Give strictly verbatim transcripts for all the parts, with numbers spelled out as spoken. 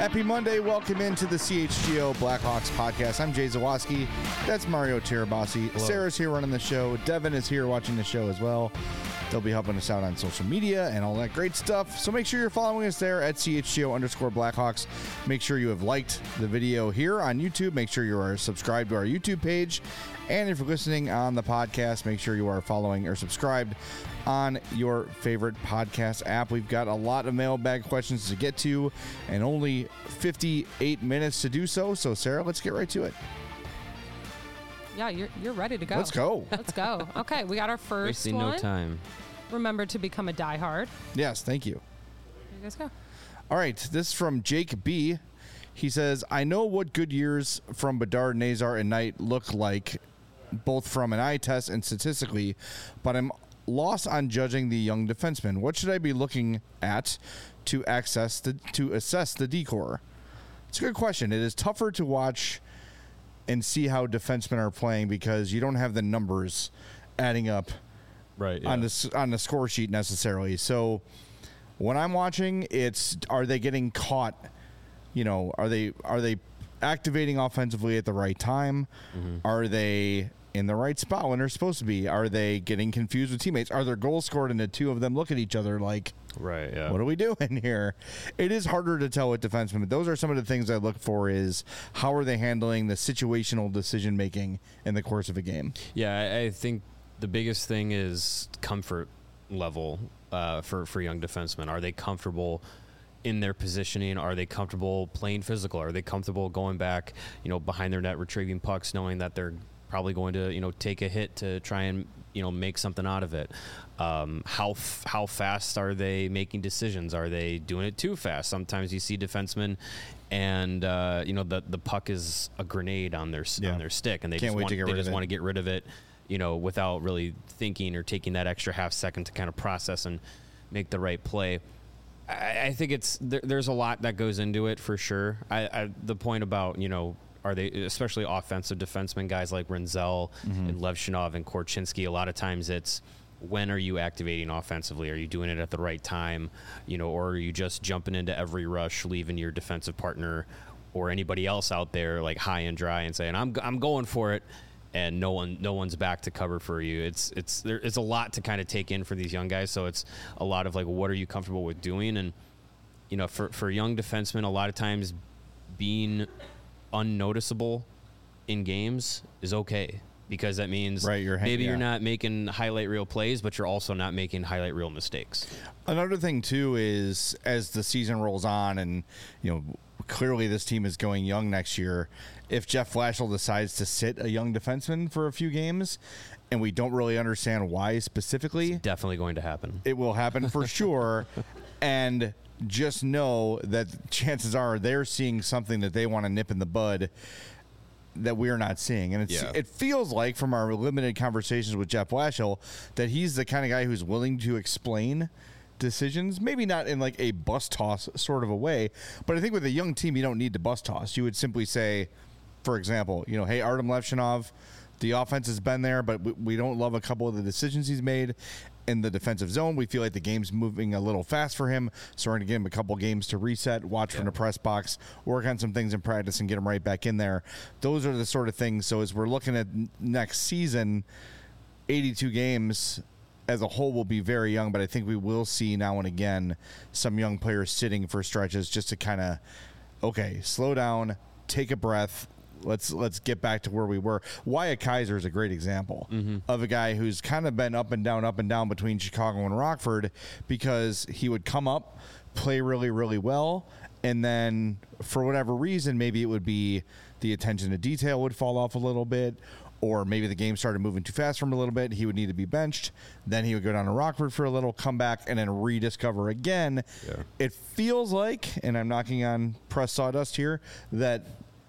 Happy Monday. Welcome into the C H G O Blackhawks podcast. I'm Jay Zawaski. That's Mario Tirabassi. Hello. Sarah's here running the show. Devin is here watching the show as well. They'll be helping us out on social media and all that great stuff. So make sure you're following us there at C H G O underscore Blackhawks. Make sure you have liked the video here on YouTube. Make sure you are subscribed to our YouTube page. And if you're listening on the podcast, make sure you are following or subscribed on your favorite podcast app. We've got a lot of mailbag questions to get to and only fifty-eight minutes to do so. So, Sarah, let's get right to it. Yeah, you're you're ready to go. Let's go. Let's go. Okay, we got our first Wasting one. no time. Remember to become a diehard. Yes, thank you. Here you guys go. All right, this is from Jake B. He says, I know what good years from Bedard, Nazar, and Knight look like, both from an eye test and statistically, but I'm lost on judging the young defenseman. What should I be looking at to access the to assess the decor? It's a good question. It is tougher to watch and see how defensemen are playing because you don't have the numbers adding up Right. Yeah. on the on the score sheet necessarily. So when I'm watching, it's are they getting caught? You know, are they are they activating offensively at the right time? Mm-hmm. Are they in the right spot when they're supposed to be? Are they getting confused with teammates? Are there goals scored and the two of them look at each other like, right? Yeah. What are we doing here? It is harder to tell with defensemen, but those are some of the things I look for is how are they handling the situational decision making in the course of a game? Yeah, I, I think the biggest thing is comfort level uh, for, for young defensemen. Are they comfortable in their positioning? Are they comfortable playing physical? Are they comfortable going back, you know, behind their net, retrieving pucks, knowing that they're probably going to, you know, take a hit to try and, you know, make something out of it? Um, how f- how fast are they making decisions? Are they doing it too fast? Sometimes you see defensemen and, uh, you know, the, the puck is a grenade on their Yeah. on their stick, and they Can't just wait want, to get they rid of just it. want to get rid of it, you know, without really thinking or taking that extra half second to kind of process and make the right play. I, I think it's there, there's a lot that goes into it for sure. I, I the point about, you know, are they, especially offensive defensemen, guys like Renzel mm-hmm. and Levshinov and Korchinski, a lot of times it's when are you activating offensively? Are you doing it at the right time? You know, or are you just jumping into every rush, leaving your defensive partner or anybody else out there like high and dry and saying, I'm I'm going for it, and no one no one's back to cover for you. It's it's there, it's a lot to kind of take in for these young guys. So it's a lot of like, what are you comfortable with doing? And, you know, for, for young defensemen, a lot of times being unnoticeable in games is okay, because that means right, you're, maybe yeah. you're not making highlight reel plays, but you're also not making highlight reel mistakes. Another thing too is as the season rolls on, and you know, clearly this team is going young next year. If Jeff Flashel decides to sit a young defenseman for a few games, and we don't really understand why specifically, it's definitely going to happen. It will happen for sure. And just know that chances are they're seeing something that they want to nip in the bud that we're not seeing. And it's, Yeah. it feels like from our limited conversations with Jeff Flashel that he's the kind of guy who's willing to explain decisions, maybe not in like a bus toss sort of a way, but I think with a young team, you don't need to bus toss. You would simply say, for example, you know, hey, Artem Levshinov, the offense has been there, but we, we don't love a couple of the decisions he's made in the defensive zone. We feel like the game's moving a little fast for him, so we're going to give him a couple games to reset, watch yeah. from the press box, work on some things in practice, and get him right back in there. Those are the sort of things. So as we're looking at next season, eighty-two games as a whole will be very young, but I think we will see now and again some young players sitting for stretches just to kind of, okay, slow down, take a breath. Let's let's get back to where we were. Wyatt Kaiser is a great example mm-hmm. of a guy who's kind of been up and down, up and down between Chicago and Rockford, because he would come up, play really, really well, and then for whatever reason, maybe it would be the attention to detail would fall off a little bit, or maybe the game started moving too fast for him a little bit. He would need to be benched. Then he would go down to Rockford for a little, come back, and then rediscover again. Yeah. It feels like, and I'm knocking on press sawdust here, that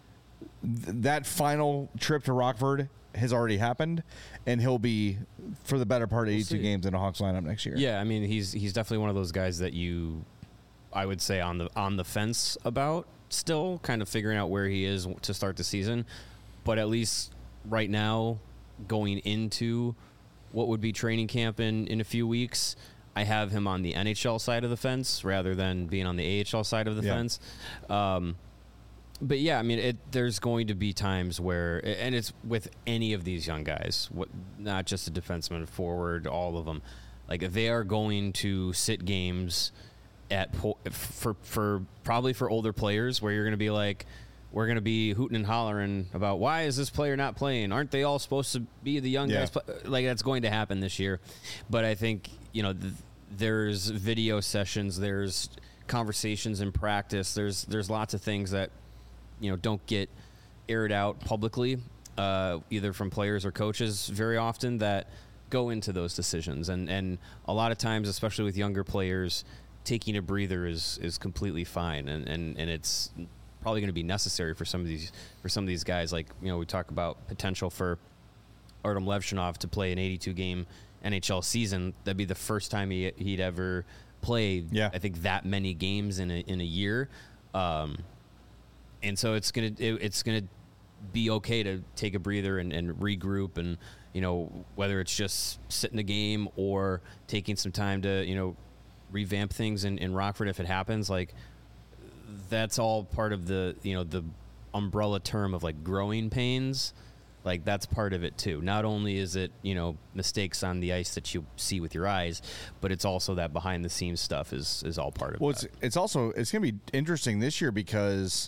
that final trip to Rockford has already happened, and he'll be for the better part of eighty-two we'll games in a Hawks lineup next year. Yeah, I mean, he's he's definitely one of those guys that you, I would say, on the on the fence about, still kind of figuring out where he is to start the season. But at least right now, going into what would be training camp in, in a few weeks, I have him on the N H L side of the fence rather than being on the A H L side of the Yeah. fence. Um, but yeah, I mean, it, there's going to be times where, and it's with any of these young guys, what, not just a defenseman, forward, all of them. Like they are going to sit games at po- for for probably for older players where you're going to be like, we're going to be hooting and hollering about why is this player not playing? Aren't they all supposed to be the young Yeah. guys? Play? Like that's going to happen this year. But I think, you know, th- there's video sessions, there's conversations in practice, there's there's lots of things that, you know, don't get aired out publicly, uh, either from players or coaches very often that go into those decisions. And, and a lot of times, especially with younger players, taking a breather is, is completely fine. And, and, and it's probably going to be necessary for some of these, for some of these guys. Like, you know, we talk about potential for Artem Levshinov to play an eighty-two game N H L season. That'd be the first time he, he'd ever played, Yeah. I think, that many games in a, in a year. Um, and so it's gonna it, it's gonna be okay to take a breather and, and regroup, and you know whether it's just sitting the game or taking some time to you know revamp things in, in Rockford if it happens. Like that's all part of the you know the umbrella term of like growing pains. Like that's part of it too. Not only is it you know mistakes on the ice that you see with your eyes, but it's also that behind the scenes stuff is is all part of Well, it. it's it's also it's going to be interesting this year because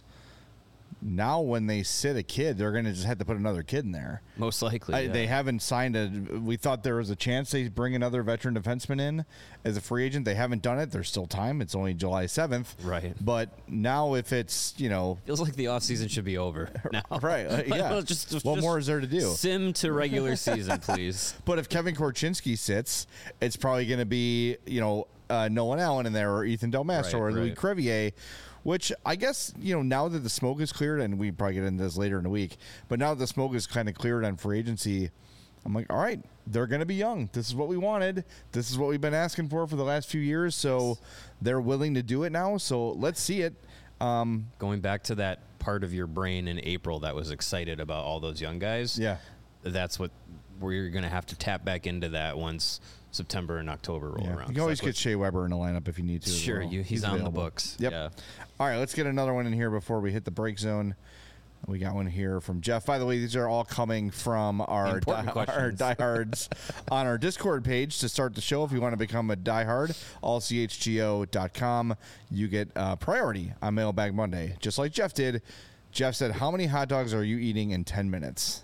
now when they sit a kid, they're going to just have to put another kid in there. Most likely, I, yeah. They haven't signed a. We thought there was a chance they bring another veteran defenseman in as a free agent. They haven't done it. There's still time. It's only July seventh. Right. But now, if it's you know, Feels like the offseason should be over now. right, uh, yeah. Well, just, just, what more is there to do? Sim to regular season, please. But if Kevin Korchinski sits, it's probably going to be you know uh, Nolan Allen in there or Ethan Del Mastro Right, or Louis right. Crevier. Which I guess, you know, now that the smoke is cleared, and we probably get into this later in the week, but now that the smoke is kind of cleared on free agency, I'm like, all right, they're going to be young. This is what we wanted. This is what we've been asking for for the last few years. So they're willing to do it now. So let's see it. Um, Going back to that part of your brain in April that was excited about all those young guys. yeah. That's what we're going to have to tap back into that once September and October roll yeah. around. You can always So get that's Shea Weber in the lineup if you need to. what- as Sure, well. you, he's, on available. the books. Yep. Yeah. All right, let's get another one in here before we hit the break zone. We got one here from Jeff. By the way, these are all coming from our, Important die, our questions. diehards on our Discord page to start the show. If you want to become a diehard, all c h g o dot com. You get uh, priority on Mailbag Monday, just like Jeff did. Jeff said, how many hot dogs are you eating in ten minutes?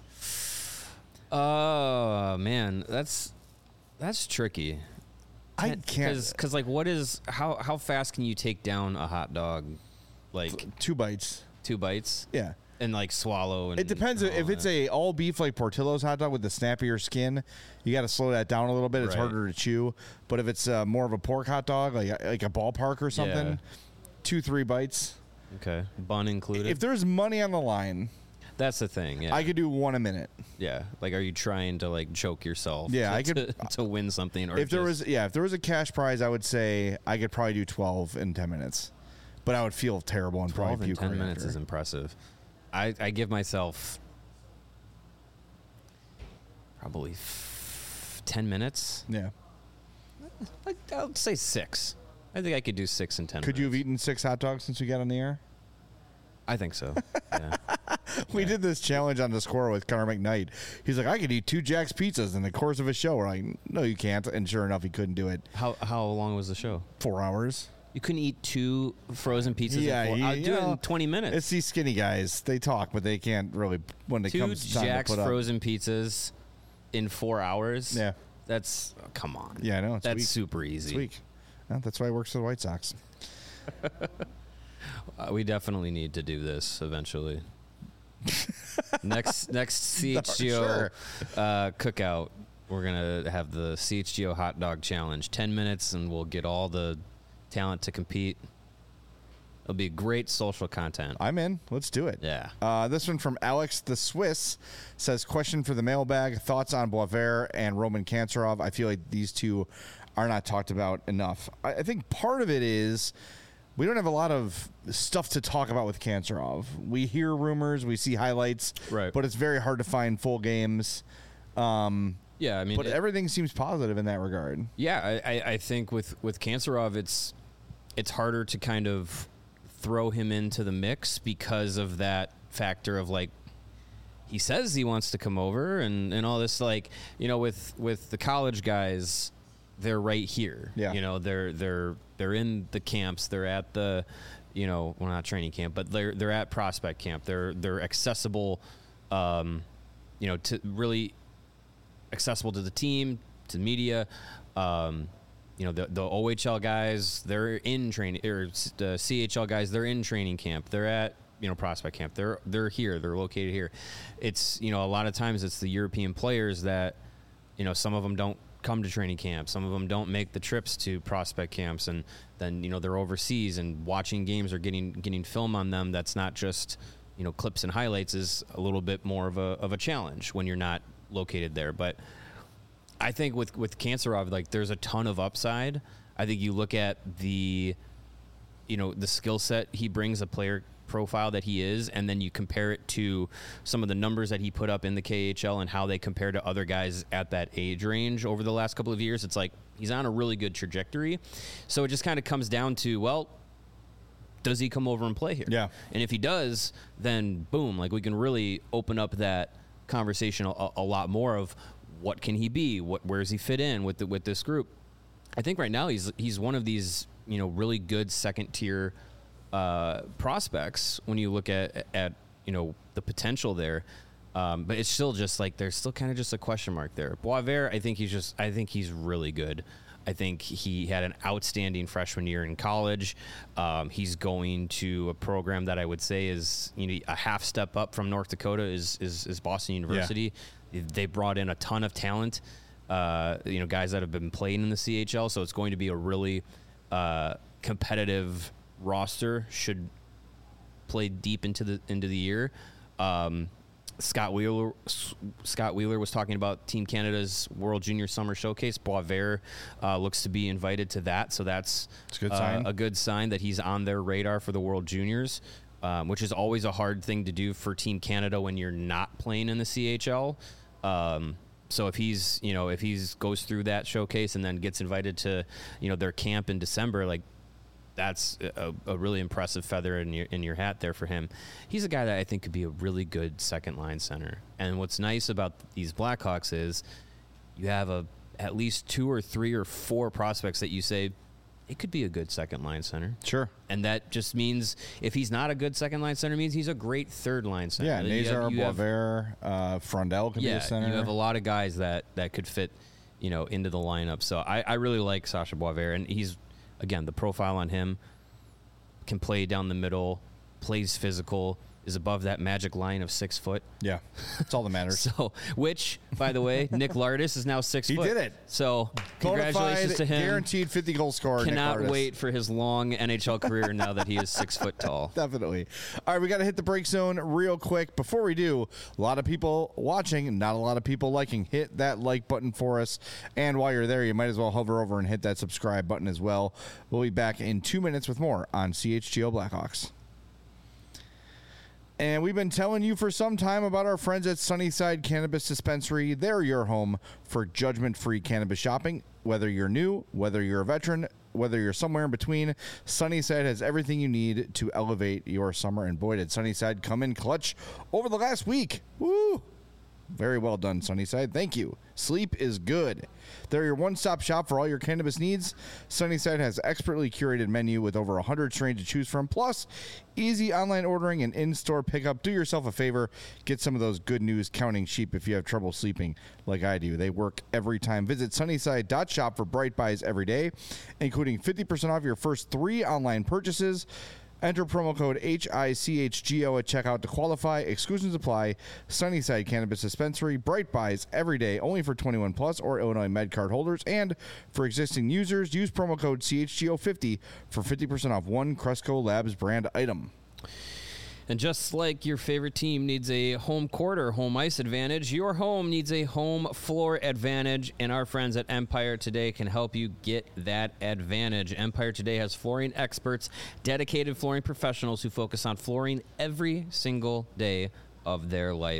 Oh, man. That's that's tricky. I can't. Because, like, what is, how, how fast can you take down a hot dog? Like, Two bites. two bites? Yeah. And, like, swallow? And It depends. all If it's that. a all beef like Portillo's hot dog with the snappier skin, you got to slow that down a little bit. It's Right. harder to chew. But if it's uh, more of a pork hot dog, like like a ballpark or something, Yeah. two three bites. Okay. Bun included? If there's money on the line, That's the thing, yeah. I could do one a minute. Yeah, like, are you trying to like choke yourself? Yeah, to, I could- to, to win something. Or If there just- was, yeah, if there was a cash prize, I would say I could probably do twelve in ten minutes. But I would feel terrible and twelve probably in puke ten right minutes after. is impressive. I I give myself probably f- ten minutes. Yeah. Like, I would say six. I think I could do six in ten. Could you have minutes. eaten six hot dogs since we got on the air? I think so. Yeah. We Yeah. did this challenge on the score with Connor McKnight. He's like, I could eat two Jack's pizzas in the course of a show. We're like, no, you can't. And sure enough, he couldn't do it. How how long was the show? Four hours. You couldn't eat two frozen pizzas. Yeah, in four. you- I'll you do it know, in twenty minutes. It's these skinny guys. They talk, but they can't really when it Two comes time Jack's to put up. frozen pizzas in four hours. Yeah. That's oh, come on. Yeah, I know. It's That's weak. super easy. It's weak. Well, that's why he works for the White Sox. Uh, we definitely need to do this eventually. next next C H G O Sure. uh, cookout, we're gonna have the C H G O hot dog challenge. Ten minutes, and we'll get all the talent to compete. It'll be great social content. I'm in. Let's do it. Yeah. Uh, this one from Alex the Swiss says, question for the mailbag. Thoughts on Boisvert and Roman Kanserov? I feel like these two are not talked about enough. I, I think part of it is we don't have a lot of stuff to talk about with Kanserov. We hear rumors, we see highlights, Right. but it's very hard to find full games. Um, Yeah, I mean, but it- everything seems positive in that regard. Yeah, I, I, I think with with Kanserov, it's it's harder to kind of throw him into the mix because of that factor of like he says he wants to come over and, and all this, like, you know, with with the college guys, they're right here. Yeah. You know, they're they're they're in the camps, they're at the, you know, well, not training camp, but they're they're at prospect camp. They're they're accessible, um, you know, to really accessible to the team, to the media. Um, you know, the the O H L guys, they're in training, or the C H L guys, they're in training camp. They're at, you know, prospect camp. They're they're here. They're located here. It's, you know, a lot of times it's the European players that, you know, some of them don't come to training camp. Some of them don't make the trips to prospect camps, and then, you know, they're overseas and watching games or getting getting film on them. That's not just, you know, clips and highlights, is a little bit more of a of a challenge when you're not located there. But I think with with Kanserov, like, there's a ton of upside. I think you look at the, you know, the skill set he brings, a player profile that he is, and then you compare it to some of the numbers that he put up in the K H L and how they compare to other guys at that age range over the last couple of years. It's like he's on a really good trajectory. So it just kind of comes down to, well, does he come over and play here? Yeah. And if he does, then boom, like, we can really open up that conversation a, a lot more of what can he be? What, where does he fit in with the, with this group? I think right now he's he's one of these, you know, really good second tier uh, prospects when you look at at you know, the potential there. Um, but it's still just like there's still kind of just a question mark there. Boisvert, I think he's just I think he's really good. I think he had an outstanding freshman year in college. Um, he's going to a program that I would say is, you know, a half step up from North Dakota is is, is Boston University. Yeah. They brought in a ton of talent, uh, you know, guys that have been playing in the C H L. So it's going to be a really uh, competitive roster. Should play deep into the into the year. Um, Scott Wheeler Scott Wheeler was talking about Team Canada's World Junior Summer Showcase. Boisvert uh, looks to be invited to that, so that's It's a good uh, sign. a good sign that he's on their radar for the World Juniors, um, which is always a hard thing to do for Team Canada when you're not playing in the C H L. Um, so if he's, you know, if he's goes through that showcase and then gets invited to, you know, their camp in December, like, that's a, a really impressive feather in your in your hat there for him. He's a guy that I think could be a really good second line center. And what's nice about these Blackhawks is you have a at least two or three or four prospects that you say it could be a good second line center. Sure. And that just means if he's not a good second line center, means he's a great third line center. Yeah, You have- Nazar, you have- Boisvert, uh, Frondel could yeah, be a center. you have a lot of guys that, that could fit, you know, into the lineup. So I, I really like Sasha Boisvert, and he's, again, the profile on him, can play down the middle, plays physical, is above that magic line of six foot. Yeah, that's all that matters. So, which, by the way, Nick Lardis is now six He foot. did it. So, congratulations Bonafide, to him. Guaranteed fifty goal scorer. Nick Cannot Lardis. wait for his long N H L career now that he is six foot tall. Definitely. All right, we got to hit the break zone real quick. Before we do, a lot of people watching, not a lot of people liking. Hit that like button for us. And while you're there, you might as well hover over and hit that subscribe button as well. We'll be back in two minutes with more on C H G O Blackhawks. And we've been telling you for some time about our friends at Sunnyside Cannabis Dispensary. They're your home for judgment-free cannabis shopping. Whether you're new, whether you're a veteran, whether you're somewhere in between, Sunnyside has everything you need to elevate your summer. And boy, did Sunnyside come in clutch over the last week. Woo! Very well done, Sunnyside. Thank you. Sleep is good. They're your one-stop shop for all your cannabis needs. Sunnyside has expertly curated menu with over one hundred strains to choose from, plus easy online ordering and in-store pickup. Do yourself a favor. Get some of those good news counting sheep if you have trouble sleeping like I do. They work every time. Visit sunnyside dot shop for bright buys every day, including fifty percent off your first three online purchases. Enter promo code H I C H G O at checkout to qualify. Exclusions apply. Sunnyside Cannabis Dispensary. Bright buys every day, only for twenty-one plus or Illinois MedCard holders. And for existing users, use promo code C H G O fifty for fifty percent off one Cresco Labs brand item. And just like your favorite team needs a home court or home ice advantage, your home needs a home floor advantage, and our friends at Empire Today can help you get that advantage. Empire Today has flooring experts, dedicated flooring professionals who focus on flooring every single day of their life.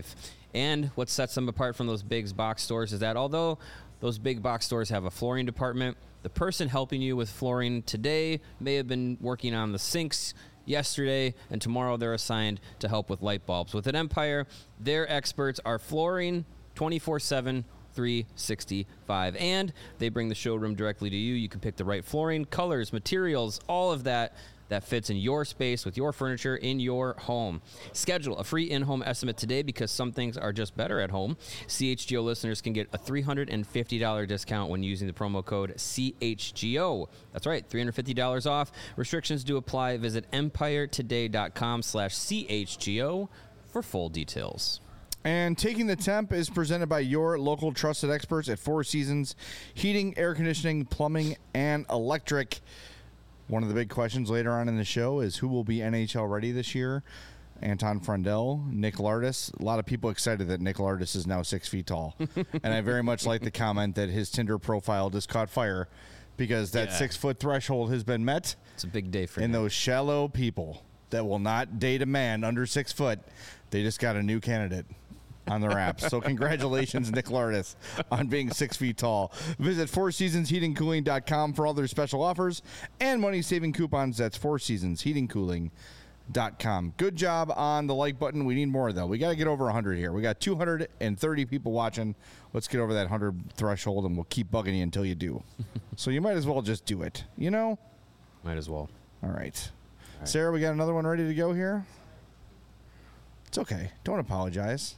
And what sets them apart from those big box stores is that although those big box stores have a flooring department, the person helping you with flooring today may have been working on the sinks yesterday, and tomorrow they're assigned to help with light bulbs. With an Empire, their experts are flooring twenty-four seven, three sixty-five, and they bring the showroom directly to you. You can pick the right flooring, colors, materials, all of that that fits in your space with your furniture in your home. Schedule a free in-home estimate today because some things are just better at home. C H G O listeners can get a three hundred fifty dollars discount when using the promo code C H G O. That's right, three hundred fifty dollars off. Restrictions do apply. Visit empiretoday.com slash CHGO for full details. And Taking the Temp is presented by your local trusted experts at Four Seasons Heating, Air Conditioning, Plumbing, and Electric. One of the big questions later on in the show is who will be N H L ready this year? Anton Frundell, Nick Lardis. A lot of people excited that Nick Lardis is now six feet tall. And I very much like the comment that his Tinder profile just caught fire because that Yeah. six-foot threshold has been met. It's a big day for And him. those shallow people that will not date a man under six foot, they just got a new candidate on their app. So congratulations, Nick Lardis, on being six feet tall. Visit four seasons heating cooling dot com for all their special offers and money-saving coupons. That's four seasons heating cooling dot com. Good job on the like button. We need more, though. We got to get over one hundred here. We got two hundred thirty people watching. Let's get over that one hundred threshold, and we'll keep bugging you until you do. So you might as well just do it, you know? Might as well. All right. Sarah, we got another one ready to go here? It's okay. Don't apologize.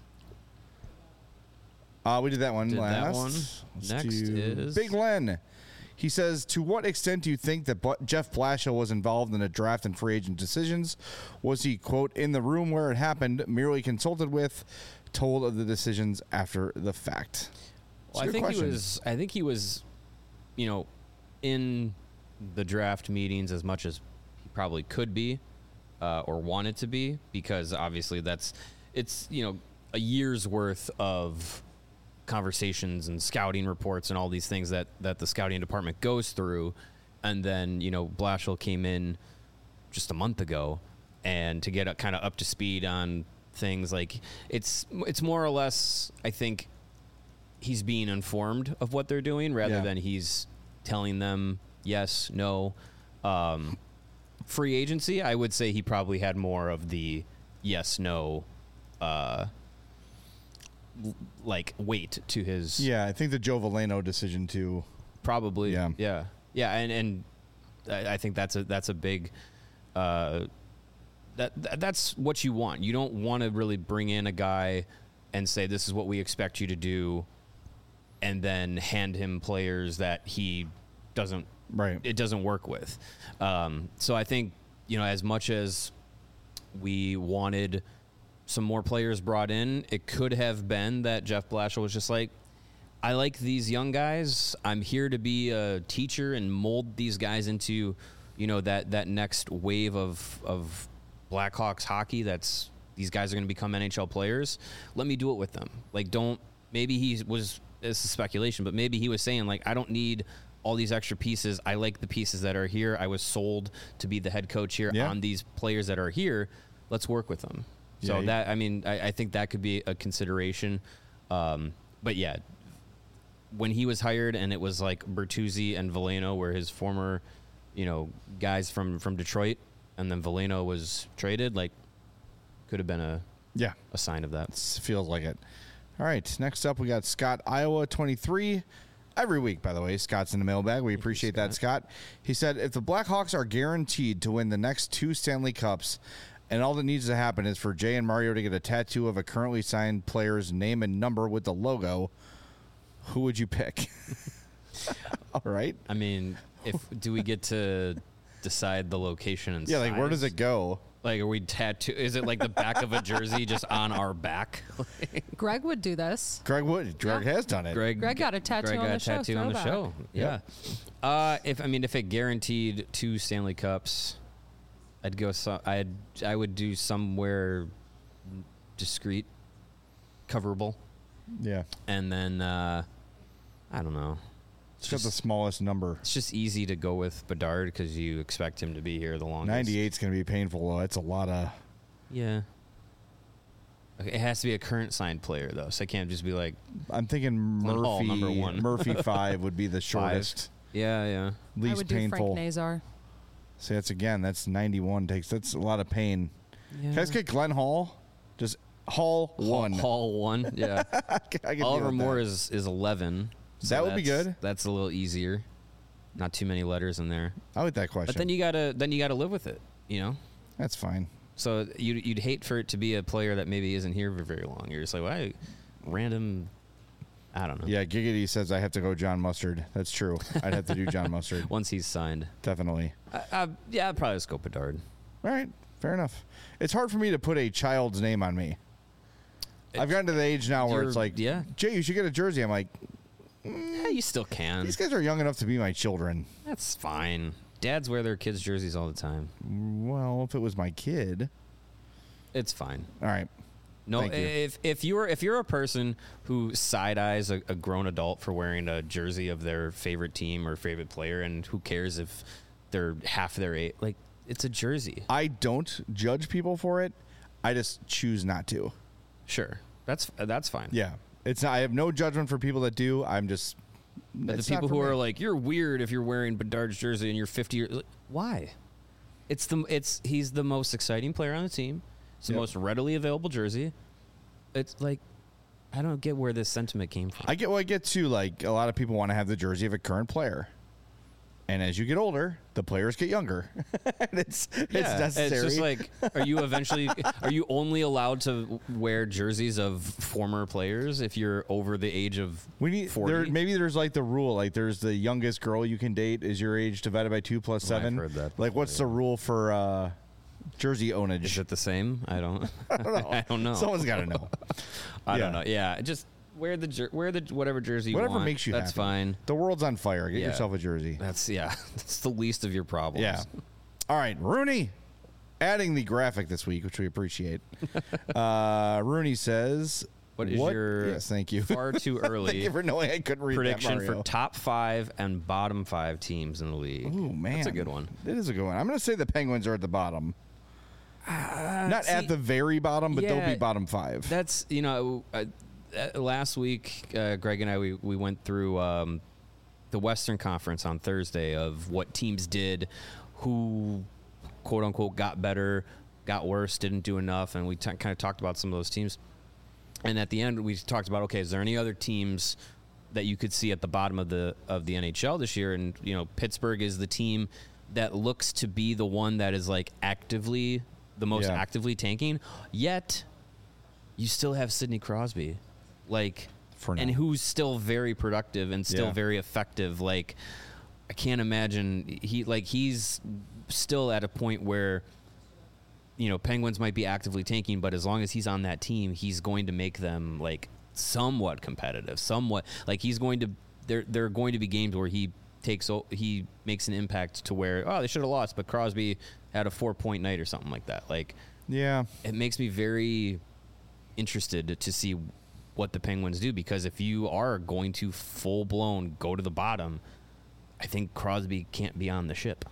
Uh, we did that one Did that last. one. Let's Next do is- Big Len. He says, to what extent do you think that Bu- Jeff Blashill was involved in the draft and free agent decisions? Was he, quote, in the room where it happened, merely consulted with, told of the decisions after the fact? It's Well, a I good think question. he was. I think he was, you know, in the draft meetings as much as he probably could be, uh, or wanted to be, because obviously that's, it's you know, a year's worth of conversations and scouting reports and all these things that that the scouting department goes through, and then you know Blashill came in just a month ago, and to get kind of up to speed on things like it's it's more or less I think he's being informed of what they're doing rather Yeah. than he's telling them yes, no. Um, free agency, I would say he probably had more of the yes, no, uh, l- like weight to his Yeah, I think the Joe Valeno decision, too. probably Yeah. yeah yeah and and I, I think that's a that's a big uh, that, that that's what you want. You don't want to really bring in a guy and say this is what we expect you to do, and then hand him players that he doesn't Right. it doesn't work with. Um, so I think, you know, as much as we wanted some more players brought in, it could have been that Jeff Blashill was just like, I like these young guys. I'm here to be a teacher and mold these guys into, you know, that, that next wave of, of Blackhawks hockey. That's these guys are going to become N H L players. Let me do it with them. Like, don't, maybe he was, this is speculation, but maybe he was saying like, I don't need all these extra pieces. I like the pieces that are here. I was sold to be the head coach here Yeah. on these players that are here. Let's work with them. So Yeah, you- that, I mean, I, I think that could be a consideration. Um, but yeah, when he was hired and it was like Bertuzzi and Valeno were his former, you know, guys from, from Detroit, and then Valeno was traded, like could have been a, Yeah. a sign of that. It feels like it. All right. Next up, we got Scott, Iowa twenty-three. Every week, by the way, Scott's in the mailbag. We appreciate that, Scott. He said, if the Blackhawks are guaranteed to win the next two Stanley Cups, and all that needs to happen is for Jay and Mario to get a tattoo of a currently signed player's name and number with the logo, who would you pick? All right. I mean, if do we get to decide the location and Yeah, like where size? does it go? Like, are we tattoo? Is it like the back of a jersey just on our back? Greg would do this. Greg Wood. Greg Yeah. has done it. Greg, Greg got a tattoo Greg on got the a show, tattoo on the throwback. show. Yeah. Uh, if I mean, if it guaranteed two Stanley Cups, I'd go. So, I'd I would do somewhere discreet, coverable, Yeah. and then uh, I don't know. It's got the smallest number. It's just easy to go with Bedard because you expect him to be here the longest. ninety-eight's going to be painful, though. It's a lot of... Yeah. Okay, it has to be a current signed player though, so I can't just be like I'm thinking Glenn Hall, Murphy. number one. Murphy five would be the shortest, yeah, yeah. I least would do painful. Frank Nazar. See, that's again. That's ninety-one takes. That's a lot of pain. yeah. Can I just get Glenn Hall? Just Hall Hall, one. Hall one, yeah. I can deal Oliver with Moore that. is is eleven. So That would be that's- good. That's a little easier. Not too many letters in there. I like that question. But then you gotta then you gotta live with it, you know. That's fine. So you'd you'd hate for it to be a player that maybe isn't here for very long. You're just like, why, random. I don't know. Yeah, Giggity says I have to go John Mustard. That's true. I'd have to do John Mustard. Once he's signed, Definitely. I, I, yeah, I'd probably just go Bedard. All right. Fair enough. It's hard for me to put a child's name on me. I've gotten to the age now where You're- it's like, yeah. Jay, you should get a jersey. I'm like, Yeah, you still can. these guys are young enough to be my children. That's fine. Dads wear their kids' jerseys all the time. Well, if it was my kid. It's fine. All right. No, Thank you. if if you're if you're a person who side eyes a, a grown adult for wearing a jersey of their favorite team or favorite player, and who cares if they're half their age, like it's a jersey. I don't judge people for it. I just choose not to. Sure, that's that's fine. Yeah. It's not, I have no judgment for people that do. I'm just But the it's not people for who me. are like, you're weird if you're wearing Bedard's jersey and you're fifty years. Like, why? It's the it's he's the most exciting player on the team. It's the Yep. most readily available jersey. It's like I don't get where this sentiment came from. I get well, I get to like a lot of people want to have the jersey of a current player. And as you get older, the players get younger. and it's it's Yeah, necessary. It's just like, are you eventually, are you only allowed to wear jerseys of former players if you're over the age of we need forty? there, maybe there's like the rule, like there's the youngest girl you can date is your age divided by two plus Oh, I've seven. heard that Like what's the rule for uh, jersey ownage? Is it the same? I don't, I don't know. I don't know. Someone's got to know. I yeah. don't know. Yeah, just wear the jer- wear the whatever jersey you Whatever want. makes you That's happy. fine. The world's on fire. Get Yeah. yourself a jersey. That's yeah. That's the least of your problems. Yeah. All right, Rooney. Adding the graphic this week, which we appreciate. uh, Rooney says, What is your Yes, thank you. far too Thank early you for knowing I couldn't read prediction that, for Mario. top five and bottom five teams in the league? Ooh, man. That's a good one. It is a good one. I'm going to say the Penguins are at the bottom. Not see- at the very bottom, but they'll Yeah, be bottom five. That's you know, uh, uh, last week, uh, Greg and I we we went through um, the Western Conference on Thursday of what teams did, who quote unquote got better, got worse, didn't do enough, and we t- kind of talked about some of those teams. And at the end, we talked about okay, is there any other teams that you could see at the bottom of the of the N H L this year? And you know, Pittsburgh is the team that looks to be the one that is like actively the most Yeah. actively tanking. Yet, you still have Sidney Crosby, like, For now. and who's still very productive and still Yeah. very effective. Like, I can't imagine he like he's still at a point where. You know, Penguins might be actively tanking, but as long as he's on that team, he's going to make them like somewhat competitive, somewhat like he's going to. There, there are going to be games where he takes, o- he makes an impact to where oh they should have lost, but Crosby had a four point night or something like that. Like yeah. it makes me very interested to see what the Penguins do because if you are going to full blown go to the bottom, I think Crosby can't be on the ship.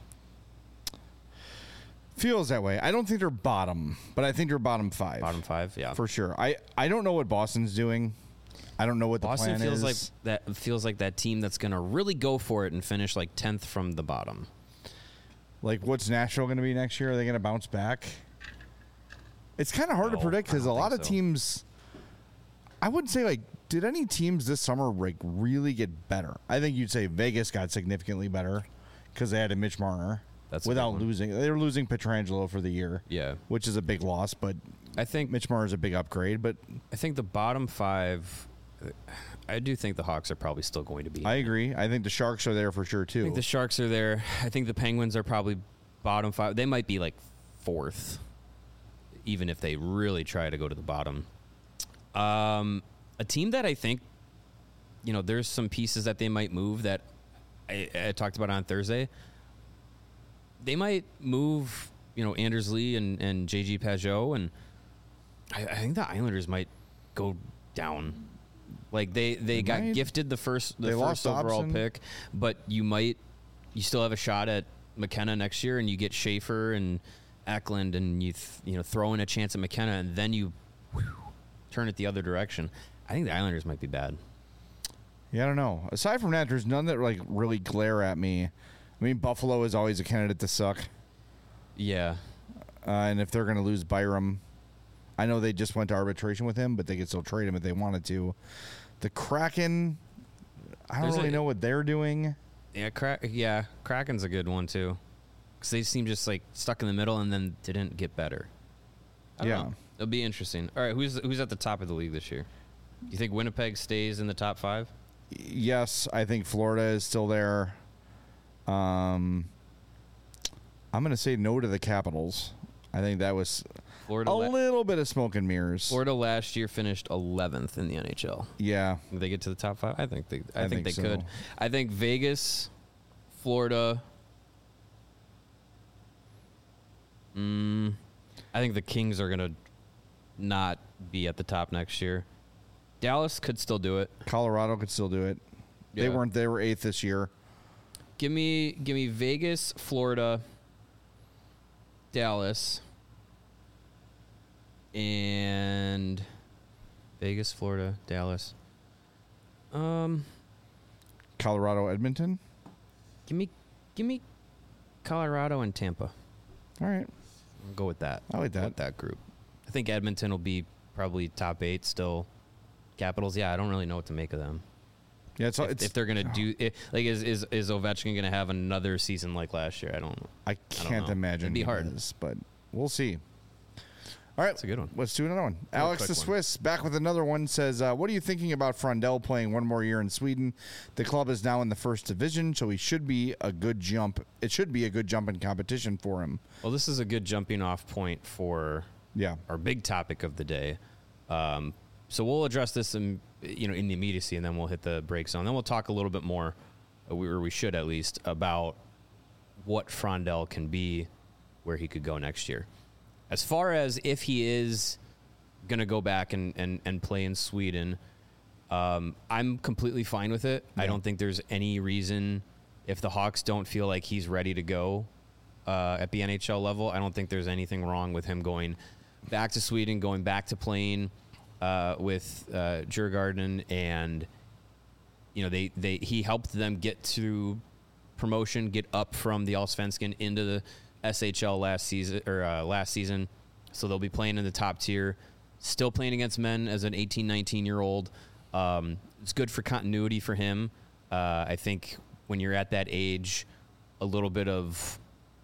Feels that way. I don't think they're bottom, but I think they're bottom five. Bottom five, yeah. For sure. I, I don't know what Boston's doing. I don't know what the Boston plan feels is. like that feels like that team that's going to really go for it and finish like tenth from the bottom. Like, what's Nashville going to be next year? Are they going to bounce back? It's kind of hard No, to predict because I a don't lot think of so. teams. I wouldn't say like, did any teams this summer like really get better? I think you'd say Vegas got significantly better because they had a Mitch Marner. That's a without big one. losing. They were losing Pietrangelo for the year. Yeah. which is a big loss, but I think Mitch Marner's a big upgrade. But I think the bottom five I do think the Hawks are probably still going to be. I agree. I think the Sharks are there for sure too. I think the Sharks are there. I think the Penguins are probably bottom five. They might be like fourth, even if they really try to go to the bottom. Um, a team that I think, you know, there's some pieces that they might move that I, I talked about on Thursday. They might move, you know, Anders Lee and, and J G Pajot, and I, I think the Islanders might go down. Like they, they, They got might. gifted the first the They first lost overall Dobson. pick, but you might you still have a shot at McKenna next year, and you get Schaefer and Eklund, and you th- you know throw in a chance at McKenna, and then you whew, turn it the other direction. I think the Islanders might be bad. Yeah, I don't know. Aside from that, there's none that like really glare at me. I mean, Buffalo is always a candidate to suck. Yeah. Uh, and if they're going to lose Byram, I know they just went to arbitration with him, but they could still trade him if they wanted to. The Kraken, I don't There's really a- know what they're doing. Yeah, Kra- yeah, Kraken's a good one too. Because they seem just like stuck in the middle and then didn't get better. I don't Yeah. know. It'll be interesting. All right, who's who's at the top of the league this year? You think Winnipeg stays in the top five? Yes, I think Florida is still there. Um, I'm going to say no to the Capitals. I think that was Florida. a la- little bit of smoke and mirrors. Florida last year finished eleventh in the N H L. Yeah. Did they get to the top five? I think they. I, I think, think they so. could. I think Vegas, Florida. Mm, I think the Kings are gonna not be at the top next year. Dallas could still do it. Colorado could still do it. They Yeah. weren't. They were eighth this year. Give me, give me Vegas, Florida, Dallas, and Vegas, Florida, Dallas. Um, Colorado, Edmonton. give me, give me Colorado and Tampa. All right. I'll go with that. I like Go that. with that group. I think Edmonton will be probably top eight still. Capitals, yeah, I don't really know what to make of them. Yeah, it's, If, it's if they're gonna do it, like, is is is Ovechkin gonna have another season like last year? I don't. I can't know. imagine It'd be he hard. is, but we'll see. All right, That's a good one. Let's do another one. Alex the quick one. Swiss back with another one says, uh, "What are you thinking about Frondell playing one more year in Sweden? The club is now in the first division, so he should be a good jump. It should be a good jump in competition for him." Well, this is a good jumping off point for Yeah, our big topic of the day. Um, so we'll address this in you know in the immediacy, and then we'll hit the break zone. Then we'll talk a little bit more, or we, or we should at least, about what Frondell can be, where he could go next year. As far as if he is going to go back and, and, and play in Sweden, um, I'm completely fine with it. I Yeah. don't think there's any reason, if the Hawks don't feel like he's ready to go uh, at the N H L level, I don't think there's anything wrong with him going back to Sweden, going back to playing uh, with uh, Djurgården, and you know they, they he helped them get to promotion, get up from the Allsvenskan into the S H L last season or uh, last season, so they'll be playing in the top tier. Still playing against men as an eighteen, nineteen year old. Um, it's good for continuity for him. Uh, I think when you're at that age, a little bit of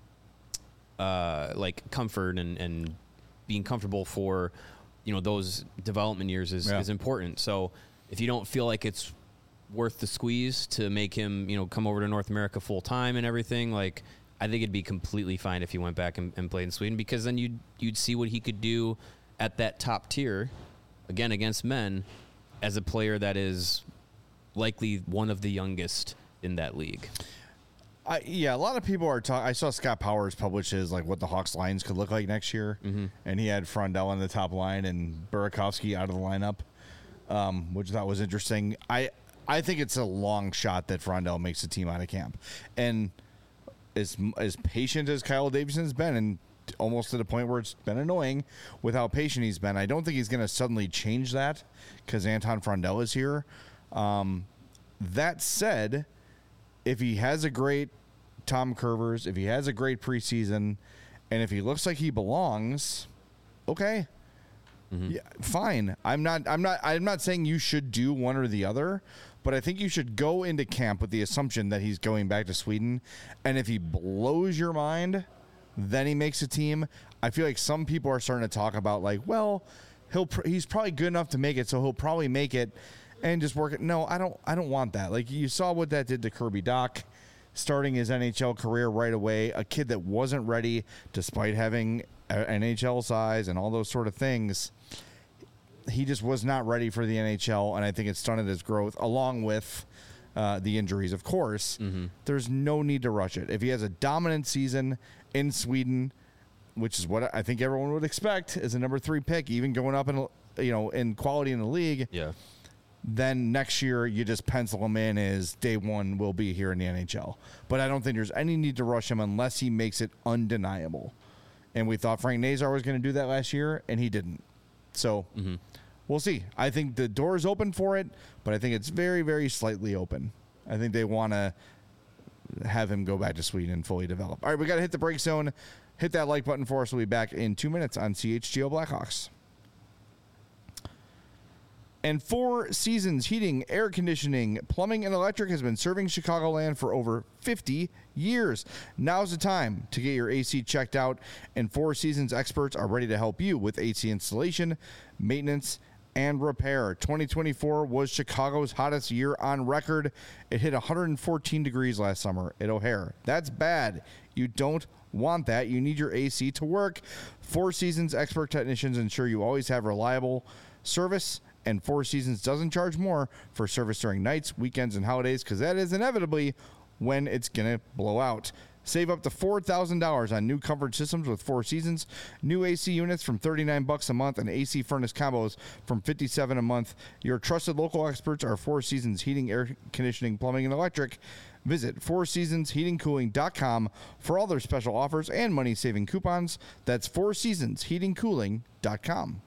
uh, like comfort and, and being comfortable for you know those development years is, Yeah. is important. So if you don't feel like it's worth the squeeze to make him you know come over to North America full time and everything, like. I think it'd be completely fine if he went back and, and played in Sweden, because then you'd you'd see what he could do at that top tier, again against men, as a player that is likely one of the youngest in that league. I, yeah. A lot of people are talking. I saw Scott Powers publish his like what the Hawks lines could look like next year, Mm-hmm. and he had Frondell on the top line and Burakovsky out of the lineup, um, which I thought was interesting. I I think it's a long shot that Frondell makes the team out of camp, and. As, as patient as Kyle Davidson's been, and almost to the point where it's been annoying with how patient he's been, I don't think he's going to suddenly change that because Anton Frondell is here. Um, that said, if he has a great Tom Curvers, if he has a great preseason, and if he looks like he belongs, okay, Mm-hmm. yeah, fine. I'm not. I'm not. I'm not saying you should do one or the other. But I think you should go into camp with the assumption that he's going back to Sweden. And if he blows your mind, then he makes a team. I feel like some people are starting to talk about like, well, he'll pr- he's probably good enough to make it, so he'll probably make it and just work it. No, I don't I don't want that. Like you saw what that did to Kirby Dach, starting his N H L career right away, a kid that wasn't ready despite having a N H L size and all those sort of things. He just was not ready for the N H L, and I think it stunted his growth, along with uh, the injuries, of course. Mm-hmm. There's no need to rush it. If he has a dominant season in Sweden, which is what I think everyone would expect as a number three pick, even going up in you know in quality in the league, Yeah. then next year you just pencil him in as day one will be here in the N H L. But I don't think there's any need to rush him unless he makes it undeniable. And we thought Frank Nazar was going to do that last year, and he didn't. So Mm-hmm. we'll see. I think the door is open for it, but I think it's very, very slightly open. I think they want to have him go back to Sweden and fully develop. All right, we got to hit the break zone. Hit that like button for us. We'll be back in two minutes on C H G O Blackhawks. And Four Seasons Heating, Air Conditioning, Plumbing, and Electric has been serving Chicagoland for over fifty years. Now's the time to get your A C checked out, and Four Seasons experts are ready to help you with A C installation, maintenance, and repair. twenty twenty-four was Chicago's hottest year on record. It hit one hundred fourteen degrees last summer at O'Hare. That's bad. You don't want that. You need your A C to work. Four Seasons expert technicians ensure you always have reliable service, and Four Seasons doesn't charge more for service during nights, weekends, and holidays, because that is inevitably when it's going to blow out. Save up to four thousand dollars on new comfort systems with Four Seasons. New A C units from thirty-nine bucks a month and A C furnace combos from fifty-seven a month. Your trusted local experts are Four Seasons Heating, Air Conditioning, Plumbing, and Electric. Visit four seasons heating cooling dot com for all their special offers and money-saving coupons. That's four seasons heating cooling dot com.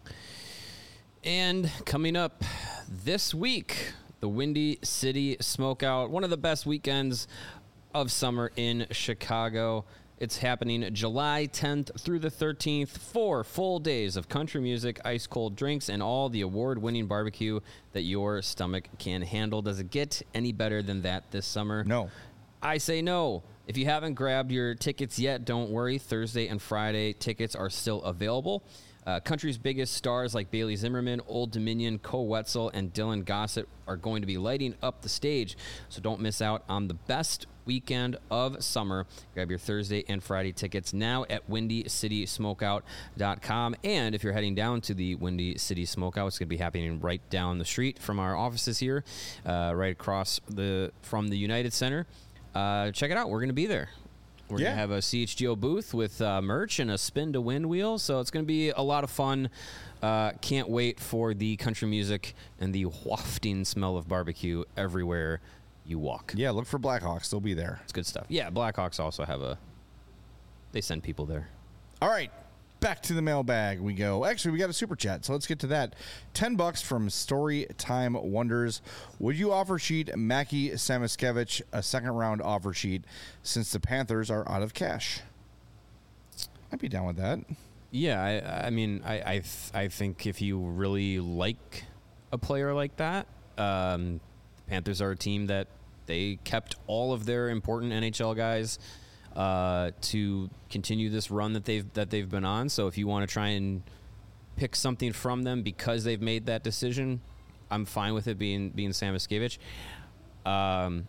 And coming up this week, the Windy City Smokeout, one of the best weekends of summer in Chicago. It's happening July tenth through the thirteenth. Four full days of country music, ice cold drinks, and all the award-winning barbecue that your stomach can handle. Does it get any better than that this summer? No. I say no. If you haven't grabbed your tickets yet, don't worry. Thursday and Friday tickets are still available. Uh, country's biggest stars like Bailey Zimmerman, Old Dominion, Ko Wetzel, and Dylan Gossett are going to be lighting up the stage. So don't miss out on the best weekend of summer. Grab your Thursday and Friday tickets now at windy city smokeout dot com. And if you're heading down to the Windy City Smokeout, it's going to be happening right down the street from our offices here, uh, right across the from the United Center. Uh, check it out. We're going to be there. We're Yeah. going to have a C H G O booth with uh, merch and a spin to win wheel. So it's going to be a lot of fun. Uh, can't wait for the country music and the wafting smell of barbecue everywhere you walk. Yeah, look for Blackhawks. They'll be there. It's good stuff. Yeah, Blackhawks also have a, they send people there. All right, back to the mailbag we go. Actually, we got a super chat, so let's get to that. Ten bucks from Storytime Wonders. Would you offer sheet Mackie Samoskevich a second round offer sheet since the Panthers are out of cash? I'd be down with that. Yeah, I, I mean, I, I, th- I think if you really like a player like that, um, the Panthers are a team that they kept all of their important N H L guys uh, to continue this run that they've that they've been on. So if you want to try and pick something from them because they've made that decision, I'm fine with it being being Samoskevich. Um,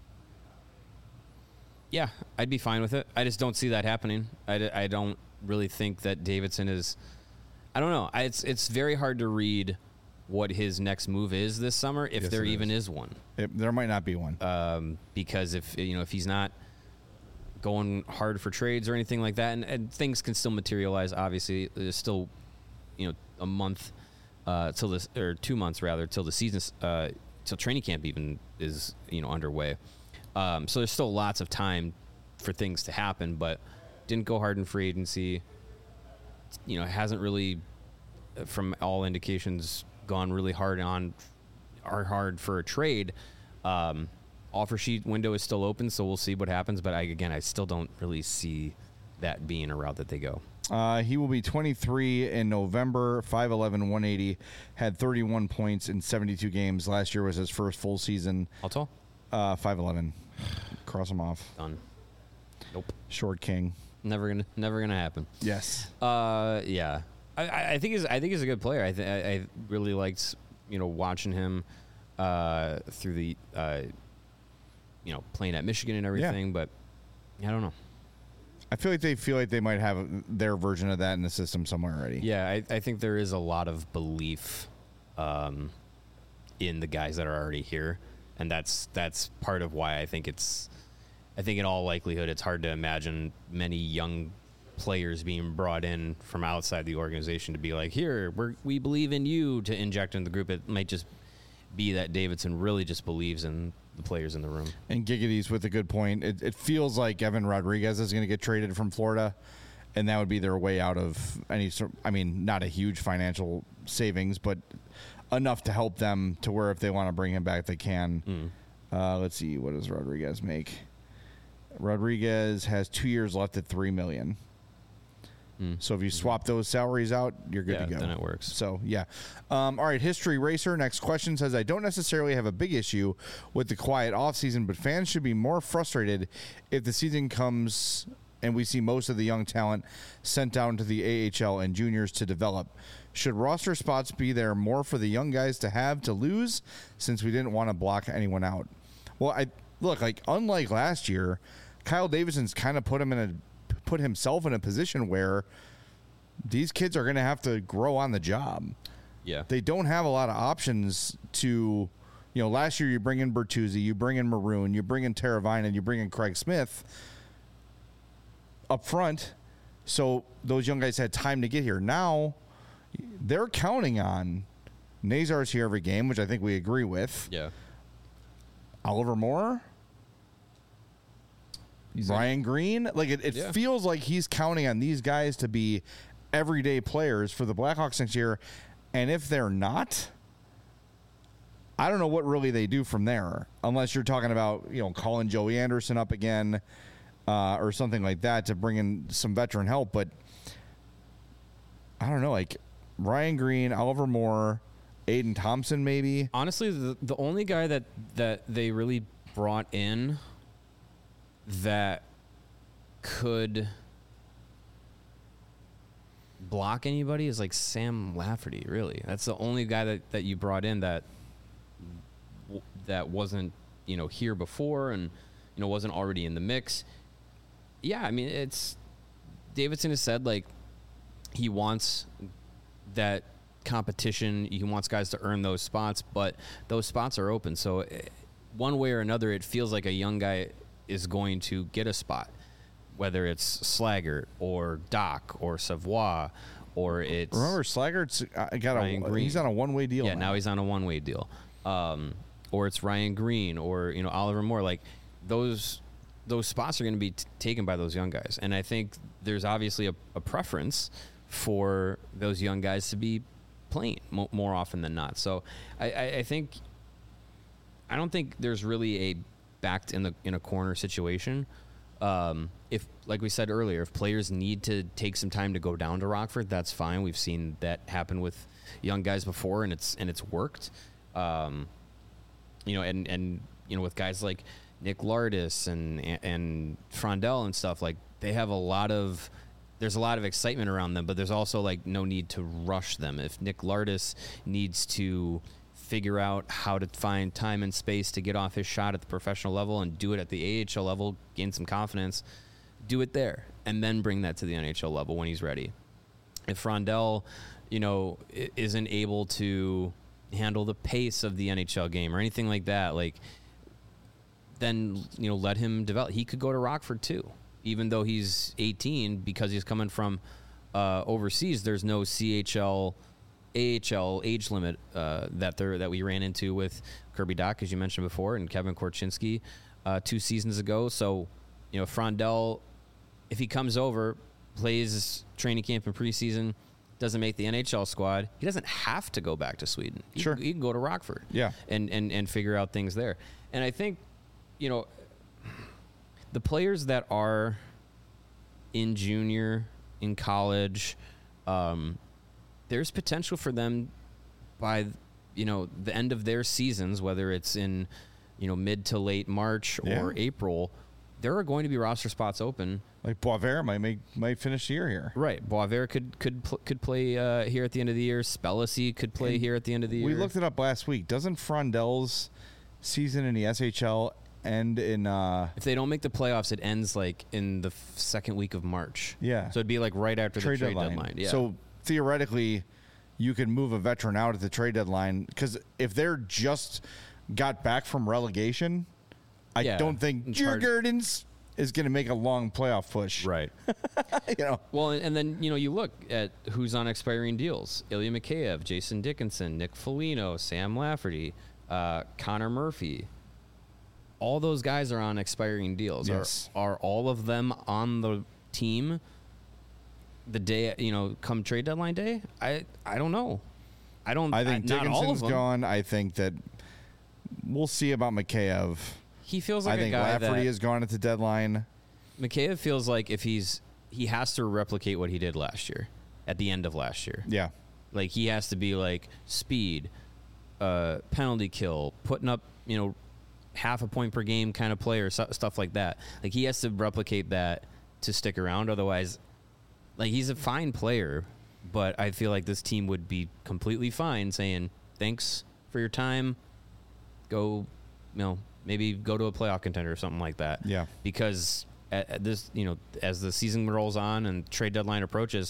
yeah, I'd be fine with it. I just don't see that happening. I, d- I don't really think that Davidson is. I don't know. I, it's it's very hard to read what his next move is this summer, if Yes, there it even is. is one. It, there might not be one. Um, because if you know if he's not going hard for trades or anything like that, and, and things can still materialize. Obviously, there's still you know a month uh, till this or two months rather till the season uh, till training camp even is you know underway. Um, so there's still lots of time for things to happen, but didn't go hard in free agency. You know, hasn't really, from all indications, gone really hard on, are hard for a trade. Um, offer sheet window is still open, so we'll see what happens. But I, again, I still don't really see that being a route that they go. Uh, he will be twenty-three in November, five eleven, one eighty, had thirty-one points in seventy-two games. Last year was his first full season. How tall? Uh, five eleven. Cross him off. Done. Nope. Short king. Never gonna, never gonna happen. Yes. Uh, yeah. I, I I think he's, I think he's a good player. I, th- I, I really liked, you know, watching him, uh, through the, uh, you know, playing at Michigan and everything. But I don't know. I feel like they feel like they might have their version of that in the system somewhere already. Yeah, I, I think there is a lot of belief, um, in the guys that are already here, and that's that's part of why I think it's. I think in all likelihood, it's hard to imagine many young players being brought in from outside the organization to be like, here, we're, we believe in you, to inject in the group. It might just be that Davidson really just believes in the players in the room. And Giggity's with a good point. It, it feels like Evan Rodriguez is going to get traded from Florida, and that would be their way out of any sort. I mean, not a huge financial savings, but enough to help them to where if they want to bring him back, they can. Mm. Uh, let's see, what does Rodriguez make? Rodriguez has two years left at three million dollars. Mm. So if you swap those salaries out, you're good Yeah, to go. then it works. So, yeah. Um, all right, History Racer, next question says, I don't necessarily have a big issue with the quiet offseason, but fans should be more frustrated if the season comes and we see most of the young talent sent down to the A H L and juniors to develop. Should roster spots be there more for the young guys to have to lose since we didn't want to block anyone out? Well, I look, like, unlike last year, Kyle Davidson's kind of put him in a put himself in a position where these kids are going to have to grow on the job. Yeah. They don't have a lot of options to, you know, last year you bring in Bertuzzi, you bring in Maroon, you bring in Teravainen, you bring in Craig Smith up front. So those young guys had time to get here. Now they're counting on Nazar's here every game, which I think we agree with. Yeah. Oliver Moore, He's Ryan Green, like it, it Yeah. feels like he's counting on these guys to be everyday players for the Blackhawks next year. And if they're not, I don't know what really they do from there, unless you're talking about, you know, calling Joey Anderson up again uh, or something like that to bring in some veteran help. But I don't know, like Ryan Green, Oliver Moore, Aiden Thompson, maybe. Honestly, the, the only guy that, that they really brought in that could block anybody is like Sam Lafferty, really. That's the only guy that, that you brought in that that wasn't, you know, here before and, you know, wasn't already in the mix. Yeah, I mean, it's Davidson has said, like, he wants that competition. He wants guys to earn those spots, but those spots are open. So one way or another, it feels like a young guy is going to get a spot, whether it's Slaggert or Doc or Savoie or it's Remember, Slaggert's uh, got Ryan a Green. he's on a one way deal. yeah now he's on a one-way deal, um, or it's Ryan Green or, you know, Oliver Moore. Like those those spots are going to be t- taken by those young guys, and I think there's obviously a, a preference for those young guys to be playing mo- more often than not. So I, I, I think I don't think there's really a backed in the in a corner situation. Um, if, like we said earlier, if players need to take some time to go down to Rockford, that's fine. We've seen that happen with young guys before, and it's and it's worked. Um, you know, and and you know, with guys like Nick Lardis and and Frondell and stuff, like they have a lot of there's a lot of excitement around them, but there's also like no need to rush them. If Nick Lardis needs to figure out how to find time and space to get off his shot at the professional level and do it at the A H L level, gain some confidence, do it there, and then bring that to the N H L level when he's ready. If Frondell, you know, isn't able to handle the pace of the N H L game or anything like that, like, then, you know, let him develop. He could go to Rockford too, even though he's eighteen, because he's coming from uh, overseas. There's no C H L, A H L age limit uh, that there that we ran into with Kirby Dach, as you mentioned before, and Kevin Korchinski uh, two seasons ago. So, you know, Frondell, if he comes over, plays training camp and preseason, doesn't make the N H L squad, he doesn't have to go back to Sweden. He, Sure. he can go to Rockford, Yeah. and, and and figure out things there. And I think, you know, the players that are in junior, in college, um, there's potential for them by, you know, the end of their seasons, whether it's in, you know, mid to late March or Yeah. April, there are going to be roster spots open. Like Boisvert might make might finish the year here. Right. Boisvert could could pl- could play uh, here at the end of the year. Spellacy could play And here at the end of the year. We looked it up last week. Doesn't Frondell's season in the S H L end in? Uh, If they don't make the playoffs, it ends like in the f- second week of March. Yeah. So it'd be like right after trade the trade deadline. deadline. Yeah. So theoretically, you could move a veteran out at the trade deadline, because if they're just got back from relegation, I Yeah. don't think It's Jer hard- Gurdens is going to make a long playoff push. right. you know. Well, and, and then, you know, you look at who's on expiring deals: Ilya Mikheyev, Jason Dickinson, Nick Foligno, Sam Lafferty, uh, Connor Murphy. All those guys are on expiring deals. Yes. Are, are all of them on the team the day, you know, come trade deadline day? I I don't know. I don't. I think not all of Dickinson's them. gone. I think that we'll see about Mikheyev. He feels like I a think guy Lafferty that is gone at the deadline. Mikheyev feels like if he's he has to replicate what he did last year, at the end of last year. Yeah. Like he has to be like speed, uh, penalty kill, putting up you know half a point per game kind of player, stu- stuff like that. Like he has to replicate that to stick around. Otherwise, like he's a fine player, but I feel like this team would be completely fine saying thanks for your time. Go, you know, maybe go to a playoff contender or something like that. Yeah. Because at, at this, you know, as the season rolls on and trade deadline approaches,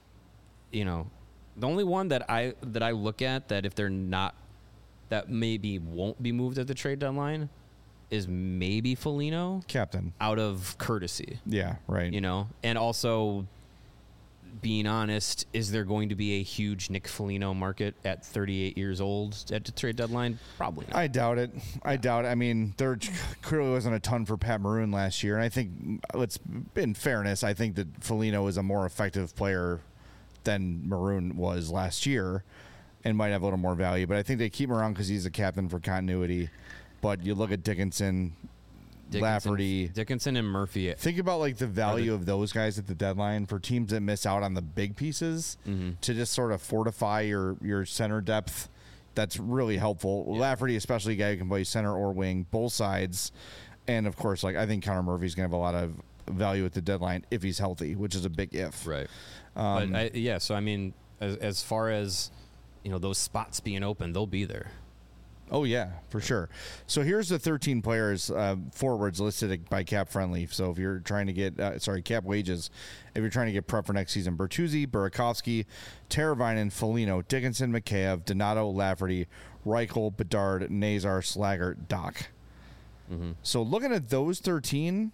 you know, the only one that I that I look at that if they're not that maybe won't be moved at the trade deadline is maybe Foligno Captain. out of courtesy, Yeah, right. you know, and also being honest, is there going to be a huge Nick Foligno market at thirty-eight years old at the trade deadline? Probably not. I doubt it. I doubt it. I mean, there clearly wasn't a ton for Pat Maroon last year, and I think, let's in fairness, I think that Foligno is a more effective player than Maroon was last year, and might have a little more value. But I think they keep him around because he's a captain for continuity. But you look at Dickinson, Dickinson, Lafferty, Dickinson and Murphy. think about like the value of those guys at the deadline for teams that miss out on the big pieces Mm-hmm. to just sort of fortify your your center depth. That's really helpful. Yeah. Lafferty, especially a guy who can play center or wing, both sides, and of course, like I think Connor Murphy's gonna have a lot of value at the deadline if he's healthy, which is a big if. Right. Um, but I, yeah, so I mean, as, as far as you know, those spots being open, they'll be there. Oh yeah, for sure. So here's the thirteen players uh, forwards listed by Cap Friendly. So if you're trying to get uh, sorry Cap Wages, if you're trying to get prep for next season, Bertuzzi, Burakovsky, Teravainen, Foligno, Dickinson, Mikheyev, Donato, Lafferty, Reichel, Bedard, Nazar, Slaggert, Doc. Mm-hmm. So looking at those thirteen,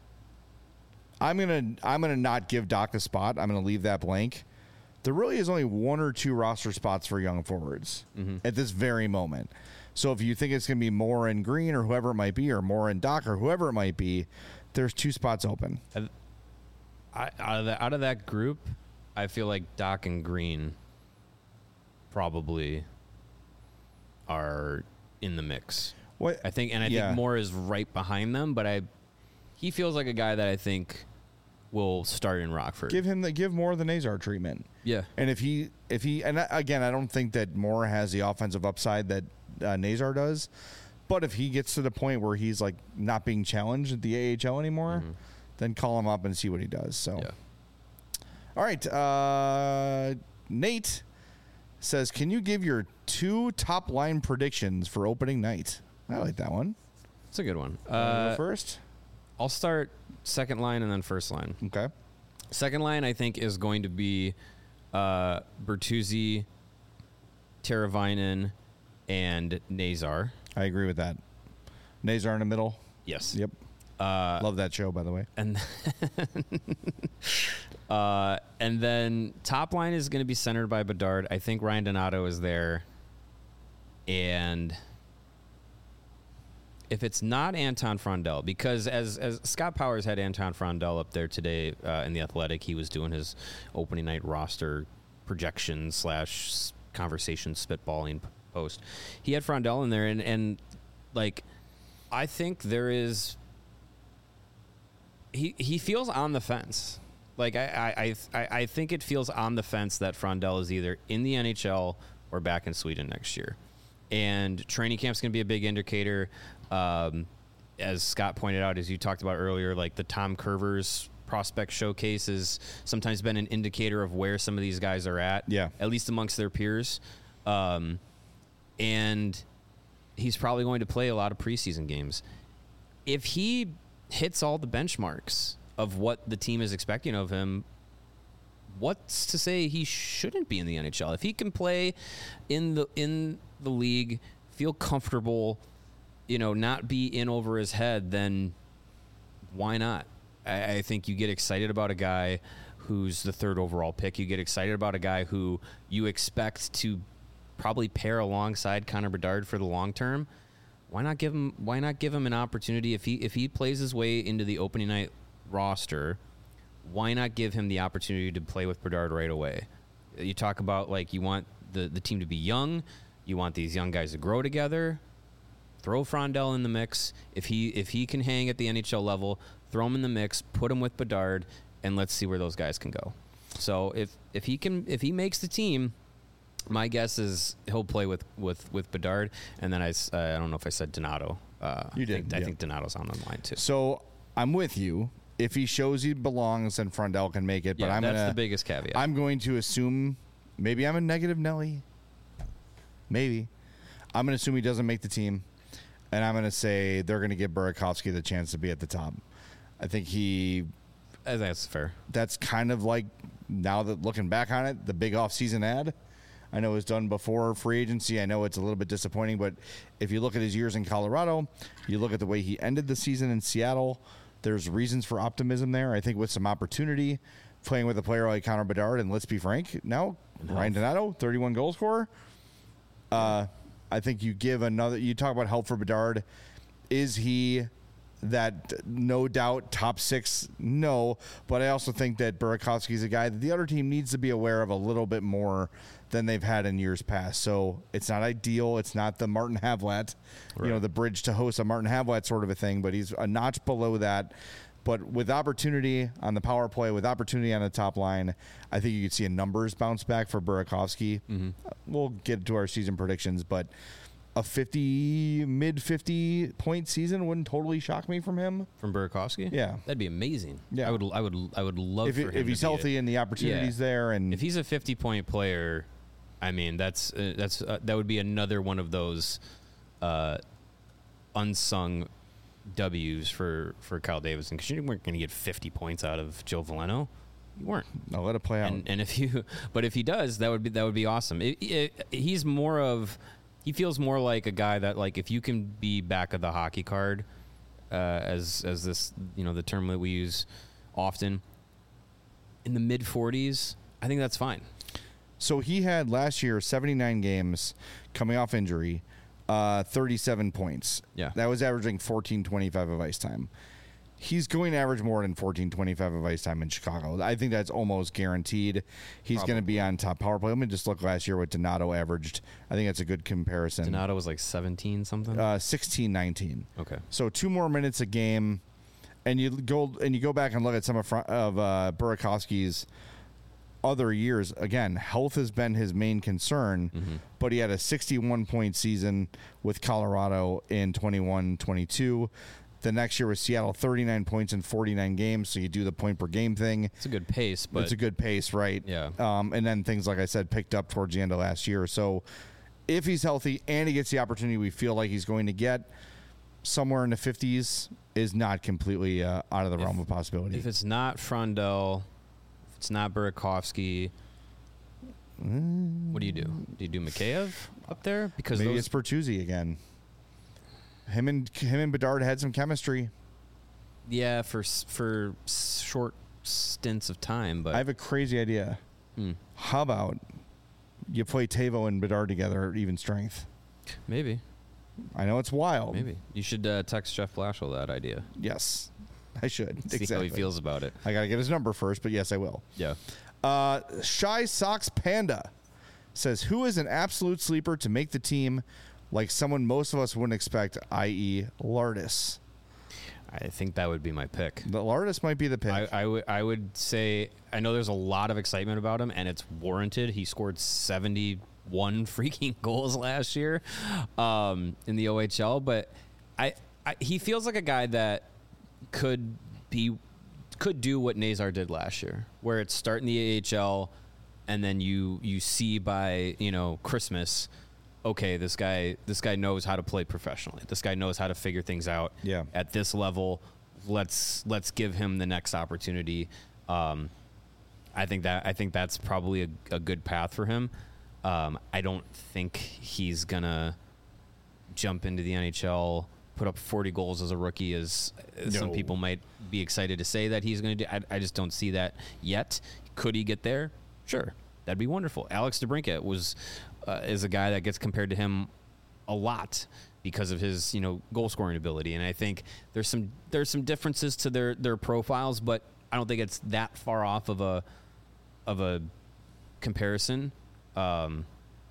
I'm gonna I'm gonna not give Doc a spot. I'm gonna leave that blank. There really is only one or two roster spots for young forwards Mm-hmm. at this very moment. So if you think it's going to be more in Green or whoever it might be, or more in Doc or whoever it might be, there's two spots open. I, out of that out of that group, I feel like Doc and Green probably are in the mix. What I think, and I Yeah. think Moore is right behind them. But I, he feels like a guy that I think will start in Rockford. give him the give Moore the Nazar treatment. yeah, And if he if he and I- again, I don't think that Moore has the offensive upside that uh, Nazar does. But if he gets to the point where he's like not being challenged at the A H L anymore, Mhm. then call him up and see what he does. So. yeah. All right. Uh, Nate says, can you give your two top line predictions for opening night? I like that one. It's a good one. Wanna Uh, go first? I'll start second line and then first line. Okay. Second line, I think, is going to be uh, Bertuzzi, Teravainen, and Nazar. I agree with that. Nazar in the middle. Yes. Yep. Uh, Love that show, by the way. and uh, and then top line is going to be centered by Bedard. I think Ryan Donato is there, and if it's not Anton Frondel, because as as Scott Powers had Anton Frondel up there today uh, in the Athletic, he was doing his opening night roster projection slash s- conversation spitballing p- post. He had Frondel in there, and and like I think there is. He he feels on the fence. Like I I, I I think it feels on the fence that Frondel is either in the N H L or back in Sweden next year. And training camp's going to be a big indicator. Um, as Scott pointed out, as you talked about earlier, like the Tom Curvers prospect showcase has sometimes been an indicator of where some of these guys are at. Yeah. At least amongst their peers. Um, and he's probably going to play a lot of preseason games. If he hits all the benchmarks of what the team is expecting of him, what's to say he shouldn't be in the N H L? If he can play in the in the league, feel comfortable, you know, not be in over his head, then why not? I, I think you get excited about a guy who's the third overall pick. You get excited about a guy who you expect to probably pair alongside Connor Bedard for the long term. Why not give him? Why not give him an opportunity if he if he plays his way into the opening night roster? Why not give him the opportunity to play with Bedard right away? You talk about like you want the, the team to be young. You want these young guys to grow together. Throw Frondell in the mix. If he if he can hang at the N H L level, throw him in the mix, put him with Bedard, and let's see where those guys can go. So if, if he can if he makes the team, my guess is he'll play with, with, with Bedard, and then I, uh, I don't know if I said Donato. Uh, You did, I think, yeah. I think Donato's on the line too. So I'm with you. If he shows he belongs, then Frondell can make it. But Yeah, I'm that's gonna, the biggest caveat. I'm going to assume maybe I'm a negative Nelly. Maybe. I'm going to assume he doesn't make the team, and I'm going to say they're going to give Burakovsky the chance to be at the top. I think he. I think that's fair. That's kind of like, now that looking back on it, the big offseason ad. I know it was done before free agency. I know it's a little bit disappointing, but if you look at his years in Colorado, you look at the way he ended the season in Seattle, there's reasons for optimism there. I think with some opportunity, playing with a player like Connor Bedard, and let's be frank, now Ryan Donato, thirty-one goal scorer. Uh, I think you give another. You talk about help for Bedard. Is he that no doubt top six? No, but I also think that Burakovsky is a guy that the other team needs to be aware of a little bit more than they've had in years past. So it's not ideal. It's not the Martin Havlat, Right. you know, the bridge to host a Martin Havlat sort of a thing, but he's a notch below that. But with opportunity on the power play, with opportunity on the top line, I think you could see a numbers bounce back for Burakovsky. Mm-hmm. We'll get to our season predictions, but a fifty, mid fifty point season wouldn't totally shock me from him. From Burakovsky? Yeah. That'd be amazing. Yeah. I would I would I would love If, for it, him if to he's be healthy it. and the opportunity's Yeah. there, and If he's a fifty point player, I mean, that's uh, that's uh, that would be another one of those uh, unsung W's for, for Kyle Davidson, because you weren't going to get fifty points out of Joe Veleno. You weren't. I'll let it play out. And, and if you, but if he does, that would be that would be awesome. It, it, he's more of, he feels more like a guy that, like, if you can be back of the hockey card, uh, as as this, you know, the term that we use often, in the mid forties, I think that's fine. So he had last year seventy-nine games coming off injury, uh, thirty-seven points. Yeah. That was averaging fourteen twenty-five of ice time. He's going to average more than fourteen twenty-five of ice time in Chicago. I think that's almost guaranteed. He's going to be on top power play. Let me just look last year what Donato averaged. I think that's a good comparison. Donato was like seventeen something. Uh, sixteen nineteen. Okay. So two more minutes a game, and you go and you go back and look at some of, Fr- of uh, Burakovsky's other years. Again, health has been his main concern, Mm-hmm. but he had a sixty-one point season with Colorado in twenty-one twenty-two. The next year was Seattle, thirty-nine points in forty-nine games. So you do the point per game thing. It's a good pace, but It's a good pace, right? Yeah. Um, and then things, like I said, picked up towards the end of last year. So if he's healthy and he gets the opportunity we feel like he's going to get, somewhere in the fifties is not completely uh, out of the If- realm of possibility. if it's not Frondell, if it's not Burakovsky, what do you do? Do you do Mikheyev up there? Because Maybe those, it's Bertuzzi again. Him and him and Bedard had some chemistry. yeah, for s- for s- short stints of time, but I have a crazy idea. hmm, How about you play Tavo and Bedard together at even strength? maybe, I know it's wild. maybe you should uh, text Jeff Blashill that idea. Yes, I should. See exactly. how he feels about it. I got to get his number first, but yes, I will. Yeah. Uh, Shy Sox Panda says, who is an absolute sleeper to make the team like someone most of us wouldn't expect, that is. Lardis? I think that would be my pick. The Lardis might be the pick. I, I would I would say I know there's a lot of excitement about him, and it's warranted. He scored seventy-one freaking goals last year um, in the O H L, but I, I he feels like a guy that could be could do what Nazar did last year, where it's start in the A H L, and then you you see by you know Christmas, okay, this guy this guy knows how to play professionally. This guy knows how to figure things out. Yeah. At this level, let's let's give him the next opportunity. Um, I think that I think that's probably a, a good path for him. Um, I don't think he's gonna jump into the N H L, put up forty goals as a rookie, as as some No. people might be excited to say that he's going to do. I, I just don't see that yet. Could he get there? Sure, that'd be wonderful. Alex DeBrincat was uh, is a guy that gets compared to him a lot because of his you know goal scoring ability, and I think there's some there's some differences to their their profiles, but I don't think it's that far off of a of a comparison. Um,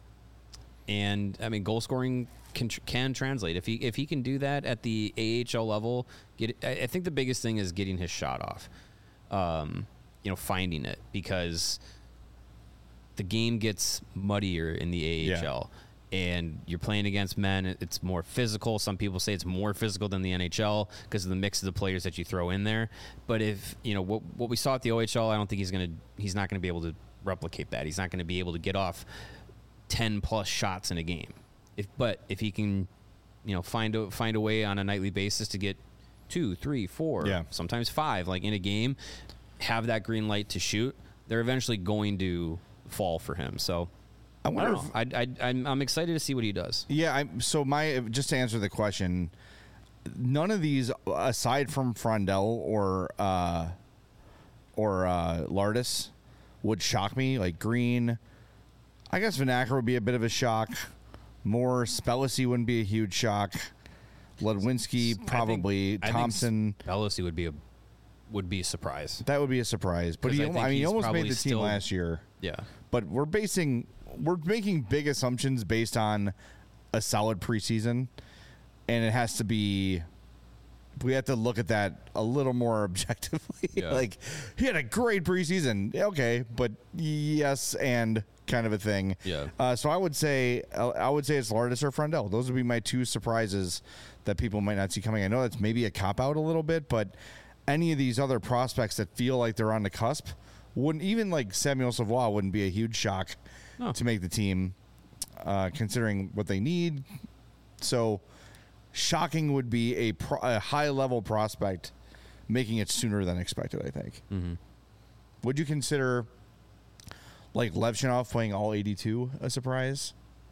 and I mean, goal scoring can can translate if he if he can do that at the A H L level. Get I, I think the biggest thing is getting his shot off. Um, you know, finding it, because the game gets muddier in the A H L. Yeah. And you're playing against men. It's more physical. Some people say it's more physical than the N H L because of the mix of the players that you throw in there. But if you know what what we saw at the O H L, I don't think he's gonna he's not gonna be able to replicate that. He's not gonna be able to get off ten plus shots in a game. If but if he can, you know, find a find a way on a nightly basis to get two, three, four, yeah. sometimes five, like in a game, have that green light to shoot, they're eventually going to fall for him. So. I wonder I if I, I, I'm, I'm excited to see what he does. Yeah, I'm, so my just to answer the question, none of these aside from Frondell or uh, or uh, Lardis would shock me. Like Green, I guess Vanacker would be a bit of a shock. More Spellacy wouldn't be a huge shock. Ludwinski probably. I think, Thompson, I think Spellacy would be a would be a surprise. That would be a surprise. But he, I, I mean, he almost made the team still, last year. Yeah, but we're basing. We're making big assumptions based on a solid preseason, and it has to be. We have to look at that a little more objectively. Yeah. Like, he had a great preseason, okay, but yes, and kind of a thing. Yeah. Uh, so I would say, I would say it's Lardis or Frondell. Those would be my two surprises that people might not see coming. I know that's maybe a cop out a little bit, but any of these other prospects that feel like they're on the cusp wouldn't, even like Samuel Savoie wouldn't be a huge shock. No. To make the team, uh, considering what they need. So, shocking would be a, pro- a high-level prospect making it sooner than expected, I think. Mm-hmm. Would you consider, like, Levchinov playing all eighty-two a surprise?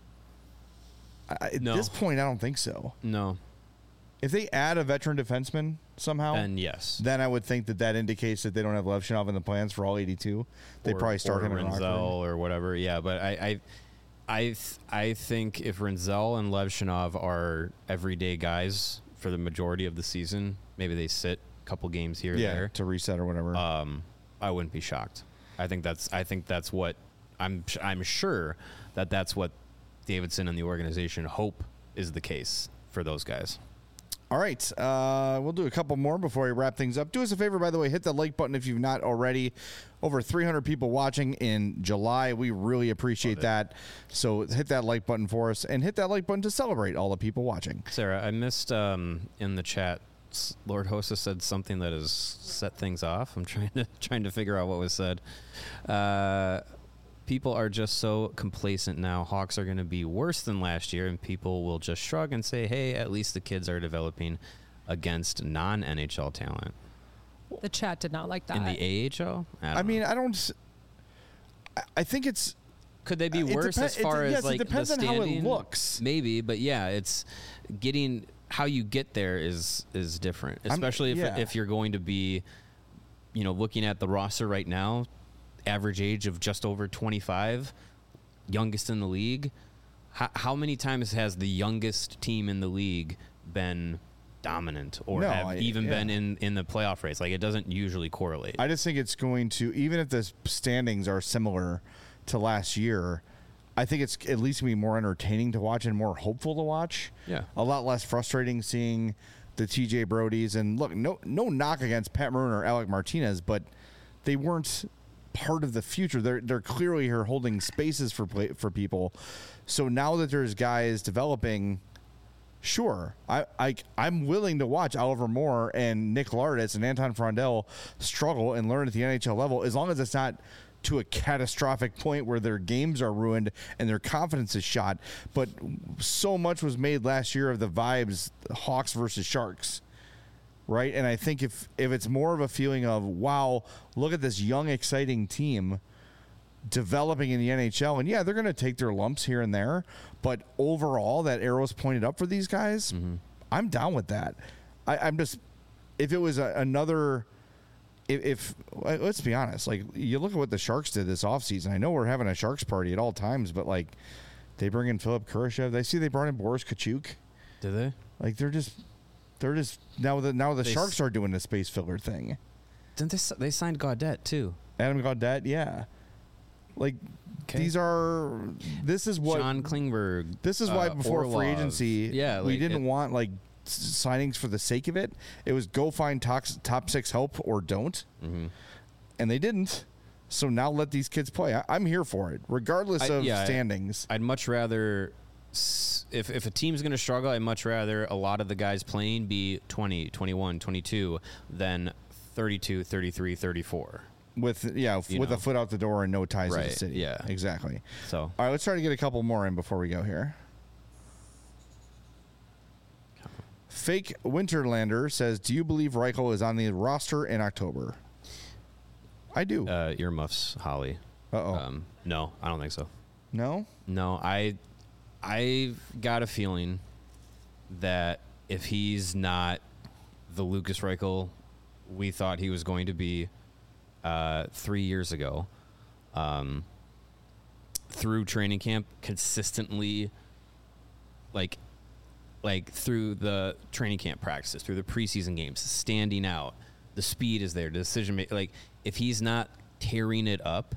I, at no. this point, I don't think so. No. If they add a veteran defenseman somehow, then yes. Then I would think that that indicates that they don't have Levchinov in the plans for all eighty-two. They or, probably start or him in Rinzel or whatever. Yeah, but I, I, I, th- I think if Rinzel and Levchinov are everyday guys for the majority of the season, maybe they sit a couple games here yeah, and there to reset or whatever. Um, I wouldn't be shocked. I think that's. I think that's what I'm. I'm sure that that's what Davidson and the organization hope is the case for those guys. All right, uh, we'll do a couple more before we wrap things up. Do us a favor, by the way, hit the like button if you've not already. Over three hundred people watching in July. We really appreciate that. So hit that like button for us, and hit that like button to celebrate all the people watching. Sarah, I missed um, in the chat, Lord Hossa said something that has set things off. I'm trying to trying to figure out what was said. Uh, people are just so complacent now. Hawks are going to be worse than last year, and people will just shrug and say, hey, at least the kids are developing against non-N H L talent. The chat did not like that. In the A H L? I, I mean, I don't... I think it's... Could they be worse depen- as far it, yes, as, like, it depends the on how it standing? looks. Maybe, but yeah, it's getting... How you get there is is different, especially if yeah. if you're going to be, you know, looking at the roster right now, average age of just over twenty-five, youngest in the league. How, how many times has the youngest team in the league been dominant or no, have I, even yeah. been in, in the playoff race? Like, it doesn't usually correlate. I just think it's going to, even if the standings are similar to last year, I think it's at least going to be more entertaining to watch and more hopeful to watch. Yeah. A lot less frustrating seeing the T J Brodies. And look, no no knock against Pat Maroon or Alec Martinez, but they weren't part of the future. They're they're clearly here holding spaces for play, for people. So now that there's guys developing, sure, I, I I'm willing to watch Oliver Moore and Nick Lardis and Anton Frondell struggle and learn at the N H L level, as long as it's not to a catastrophic point where their games are ruined and their confidence is shot. But so much was made last year of the vibes Hawks versus Sharks, right? And I think if if it's more of a feeling of, wow, look at this young, exciting team developing in the N H L, and yeah, they're going to take their lumps here and there, but overall, that arrow's pointed up for these guys. Mm-hmm. I'm down with that. I, I'm just, if it was a, another, if, if let's be honest, like, you look at what the Sharks did this offseason. I know we're having a Sharks party at all times, but like, they bring in Philip Kurashev. I see they brought in Boris Kachuk. Did they? Like, they're just, they're just now the now the They Sharks s- are doing the space filler thing. Didn't they? s- They signed Gaudette too. Adam Gaudette, yeah. Like, Okay. These are. This is what. John Klingberg. This is why uh, before Orlov. free agency, yeah, we like didn't it- want like s- signings for the sake of it. It was go find top, top six help or don't, Mhm. and they didn't. So now let these kids play. I, I'm here for it, regardless I- of yeah, I- standings. I'd much rather, s- if, if a team's going to struggle, I'd much rather a lot of the guys playing be twenty, twenty-one, twenty-two than thirty-two, thirty-three, thirty-four. With yeah, f- You with know. a foot out the door and no ties to Right, the city. yeah. exactly. So, All right, let's try to get a couple more in before we go here. Fake Winterlander says, "Do you believe Reichel is on the roster in October?" I do. uh, earmuffs, Holly. Uh oh. Um, no, I don't think so. No. No, I, I've got a feeling that if he's not the Lucas Reichel we thought he was going to be uh, three years ago, um, through training camp, consistently, like, like through the training camp practices, through the preseason games, standing out, the speed is there, the decision making. Like, if he's not tearing it up,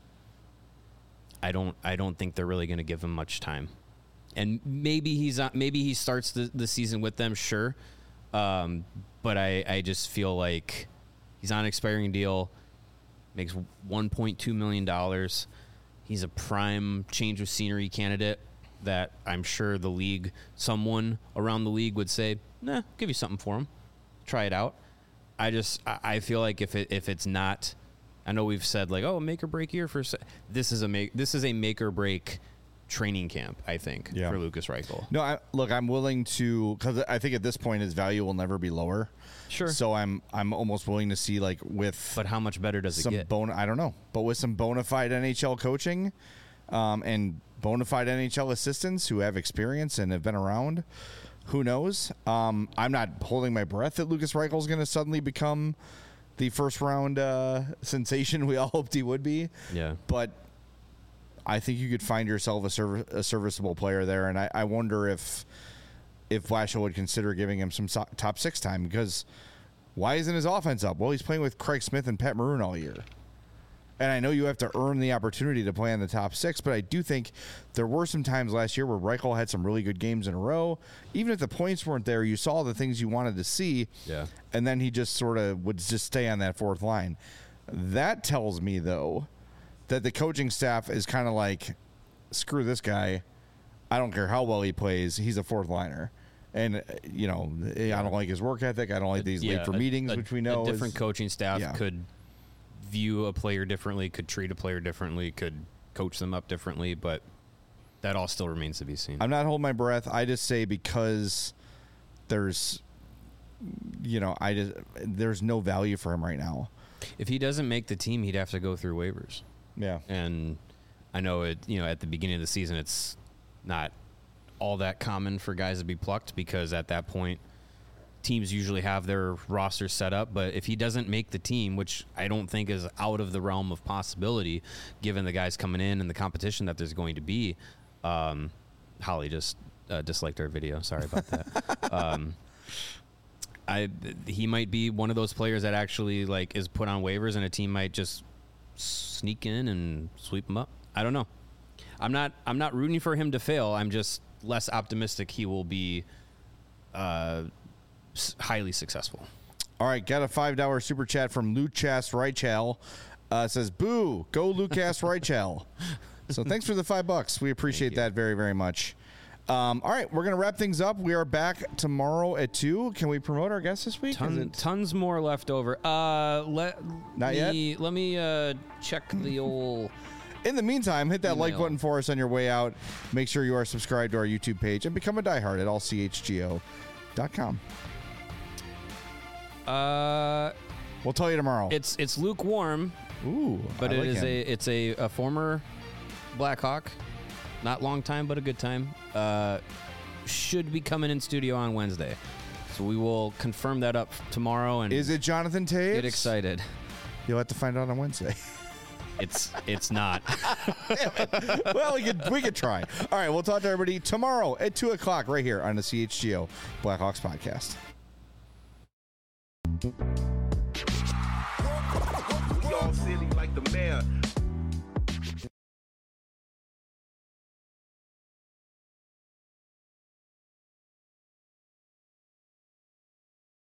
I don't I don't think they're really going to give him much time. And maybe he's not, maybe he starts the, the season with them, sure. Um, but I, I just feel like he's on an expiring deal, makes one point two million dollars. He's a prime change of scenery candidate that I'm sure the league, someone around the league would say, nah, give you something for him. Try it out. I just, I I feel like if it, if it's not, I know we've said like, oh, make or break year for, se-. this is a make, this is a make or break training camp, I think, Yeah. for Lucas Reichel. No, I, look, I'm willing to, because I think at this point his value will never be lower. Sure. So I'm I'm almost willing to see like with But how much better does it some get? bona I don't know, but with some bona fide N H L coaching, um, and bona fide N H L assistants who have experience and have been around, who knows? Um, I'm not holding my breath that Lucas Reichel is going to suddenly become the first round uh, sensation we all hoped he would be. Yeah. But I think you could find yourself a, serv- a serviceable player there, and I, I wonder if if Blashill would consider giving him some so- top six time, because why isn't his offense up? Well, he's playing with Craig Smith and Pat Maroon all year. And I know you have to earn the opportunity to play in the top six, but I do think there were some times last year where Reichel had some really good games in a row. Even if the points weren't there, you saw the things you wanted to see. Yeah. And then he just sort of would just stay on that fourth line. That tells me, though, that the coaching staff is kind of like, screw this guy. I don't care how well he plays. He's a fourth liner. And, uh, you know, I don't like his work ethic. I don't like that he's late for a- meetings, a- which we know a different is, coaching staff yeah. could view a player differently, could treat a player differently, could coach them up differently, but that all still remains to be seen. I'm not holding my breath. I just say because there's, you know, I just there's no value for him right now. If he doesn't make the team, he'd have to go through waivers. Yeah. And I know it, you know, at the beginning of the season, it's not all that common for guys to be plucked because at that point, teams usually have their roster set up. But if he doesn't make the team, which I don't think is out of the realm of possibility, given the guys coming in and the competition that there's going to be, um, Holly just uh, disliked our video. Sorry about that. um, I he might be one of those players that actually like is put on waivers, and a team might just sneak in and sweep him up. I don't know. I'm not. I'm not rooting for him to fail. I'm just less optimistic he will be uh, s- highly successful. All right, got a five dollar super chat from Lucas Reichel. Uh, says, boo, go Lucas Reichel. So thanks for the five bucks. We appreciate that very, very much. Um, all right, we're going to wrap things up. We are back tomorrow at two. Can we promote our guest this week? Is Ton, it- tons more left over. Uh, let Not me, Let me uh, check the old. In the meantime, hit that like Email. button for us on your way out. Make sure you are subscribed to our YouTube page and become a diehard at all c h g o dot com. Uh, We'll tell you tomorrow. it's it's lukewarm, Ooh, but I it like is him. a it's a, a former Blackhawk. Not long time, but a good time. Uh, should be coming in studio on Wednesday, so we will confirm that up tomorrow and Is it Jonathan Taves? get excited. You'll have to find out on Wednesday. It's it's not. Well, we could we could try. All right, we'll talk to everybody tomorrow at two o'clock right here on the C H G O Blackhawks podcast. We all silly like the mayor.